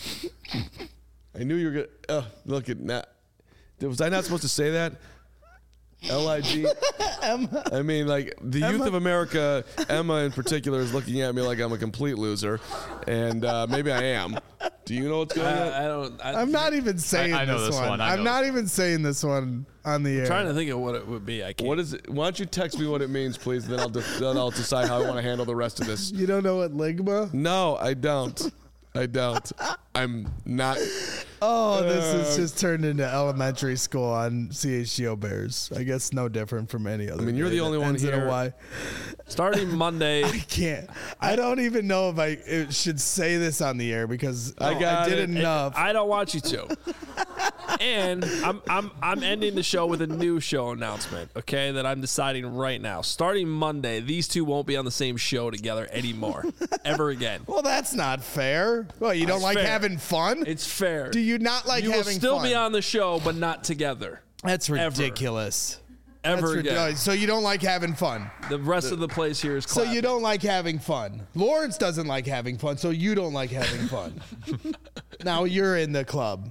I knew you were gonna. Look at that. Was I not supposed to say that? L-I-G. I mean, like the youth of America, Emma in particular, is looking at me like I'm a complete loser, and maybe I am. Do you know what's going on? I'm not even saying I know this one. I'm not even saying this one on the air. I'm trying to think of what it would be. I can't. What is it? Why don't you text me what it means, please? Then I'll decide how I want to handle the rest of this. You don't know what Ligma? No, I don't. I'm not. Oh, this has just turned into elementary school on CHGO Bears. I guess no different from any other. I mean, you're day the only that one ends in a here. Y. Starting Monday. I can't. I don't even know if I should say this on the air because I did enough. I don't want you to. And I'm ending the show with a new show announcement, okay, that I'm deciding right now. Starting Monday, these two won't be on the same show together anymore. Ever again. Well, that's not fair. Well, you don't like fair. having fun? It's fair. Do you not like you having will still fun? be on the show, but not together. That's ridiculous. Ever again. Ridiculous. So you don't like having fun. The rest of the place here is So clapping. you don't like having fun. Lawrence doesn't like having fun, so you don't like having fun. Now you're in the club.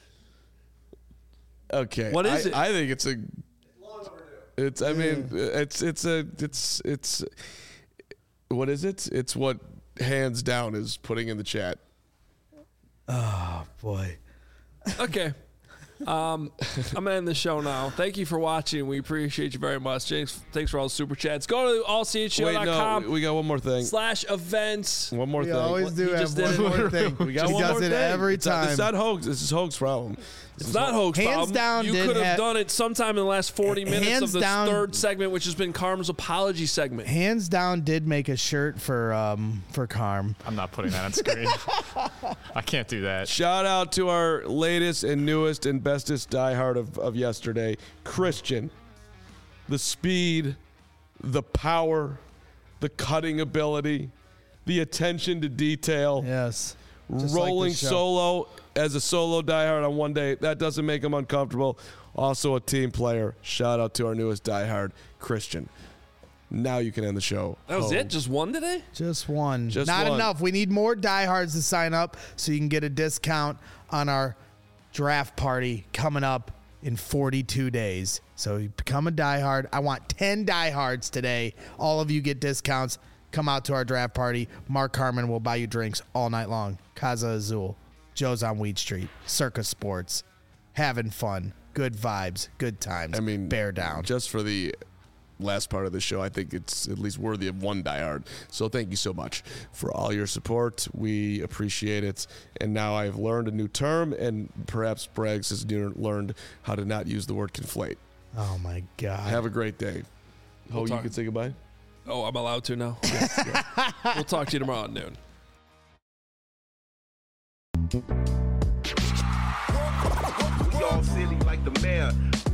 Okay. What is it? I think it's a. It's. I mean, it's. What is it? It's what hands down is putting in the chat. Oh boy. Okay. I'm going to end the show now. Thank you for watching. We appreciate you very much. James, thanks for all the super chats. Go to allchgo.com. Wait, no, we got one more thing. /events. One more We thing. always do He have just did one it. more thing. We got He one does more it thing. every It's time. not Hoax. This is Hoax problem. It's not Hoax Hands problem. down You did could have have- done it sometime in the last 40 minutes Hands of the down- third segment, which has been Carm's apology segment. Hands down did make a shirt for Carm. I'm not putting that on screen. I can't do that. Shout out to our latest and newest and bestest diehard of yesterday, Christian. The speed, the power, the cutting ability, the attention to detail. Yes. Just like Rolling the show. solo as a solo diehard on one day, that doesn't make him uncomfortable. Also a team player. Shout out to our newest diehard, Christian. Now you can end the show. That was home. it? Just one today? Just one. Just Not one. enough. We need more diehards to sign up so you can get a discount on our draft party coming up in 42 days. So you become a diehard. I want 10 diehards today. All of you get discounts. Come out to our draft party. Mark Carman will buy you drinks all night long. Casa Azul. Joe's on Weed Street. Circus Sports. Having fun. Good vibes. Good times. I mean, bear down. Just for the last part of the show, I think it's at least worthy of one diehard. So thank you so much for all your support. We appreciate it. And now I've learned a new term, and perhaps Braggs has learned how to not use the word conflate. Oh, my God. Have a great day. We'll You talk. can say goodbye? Oh, I'm allowed to now? We'll talk to you tomorrow at noon. We all silly like the mayor.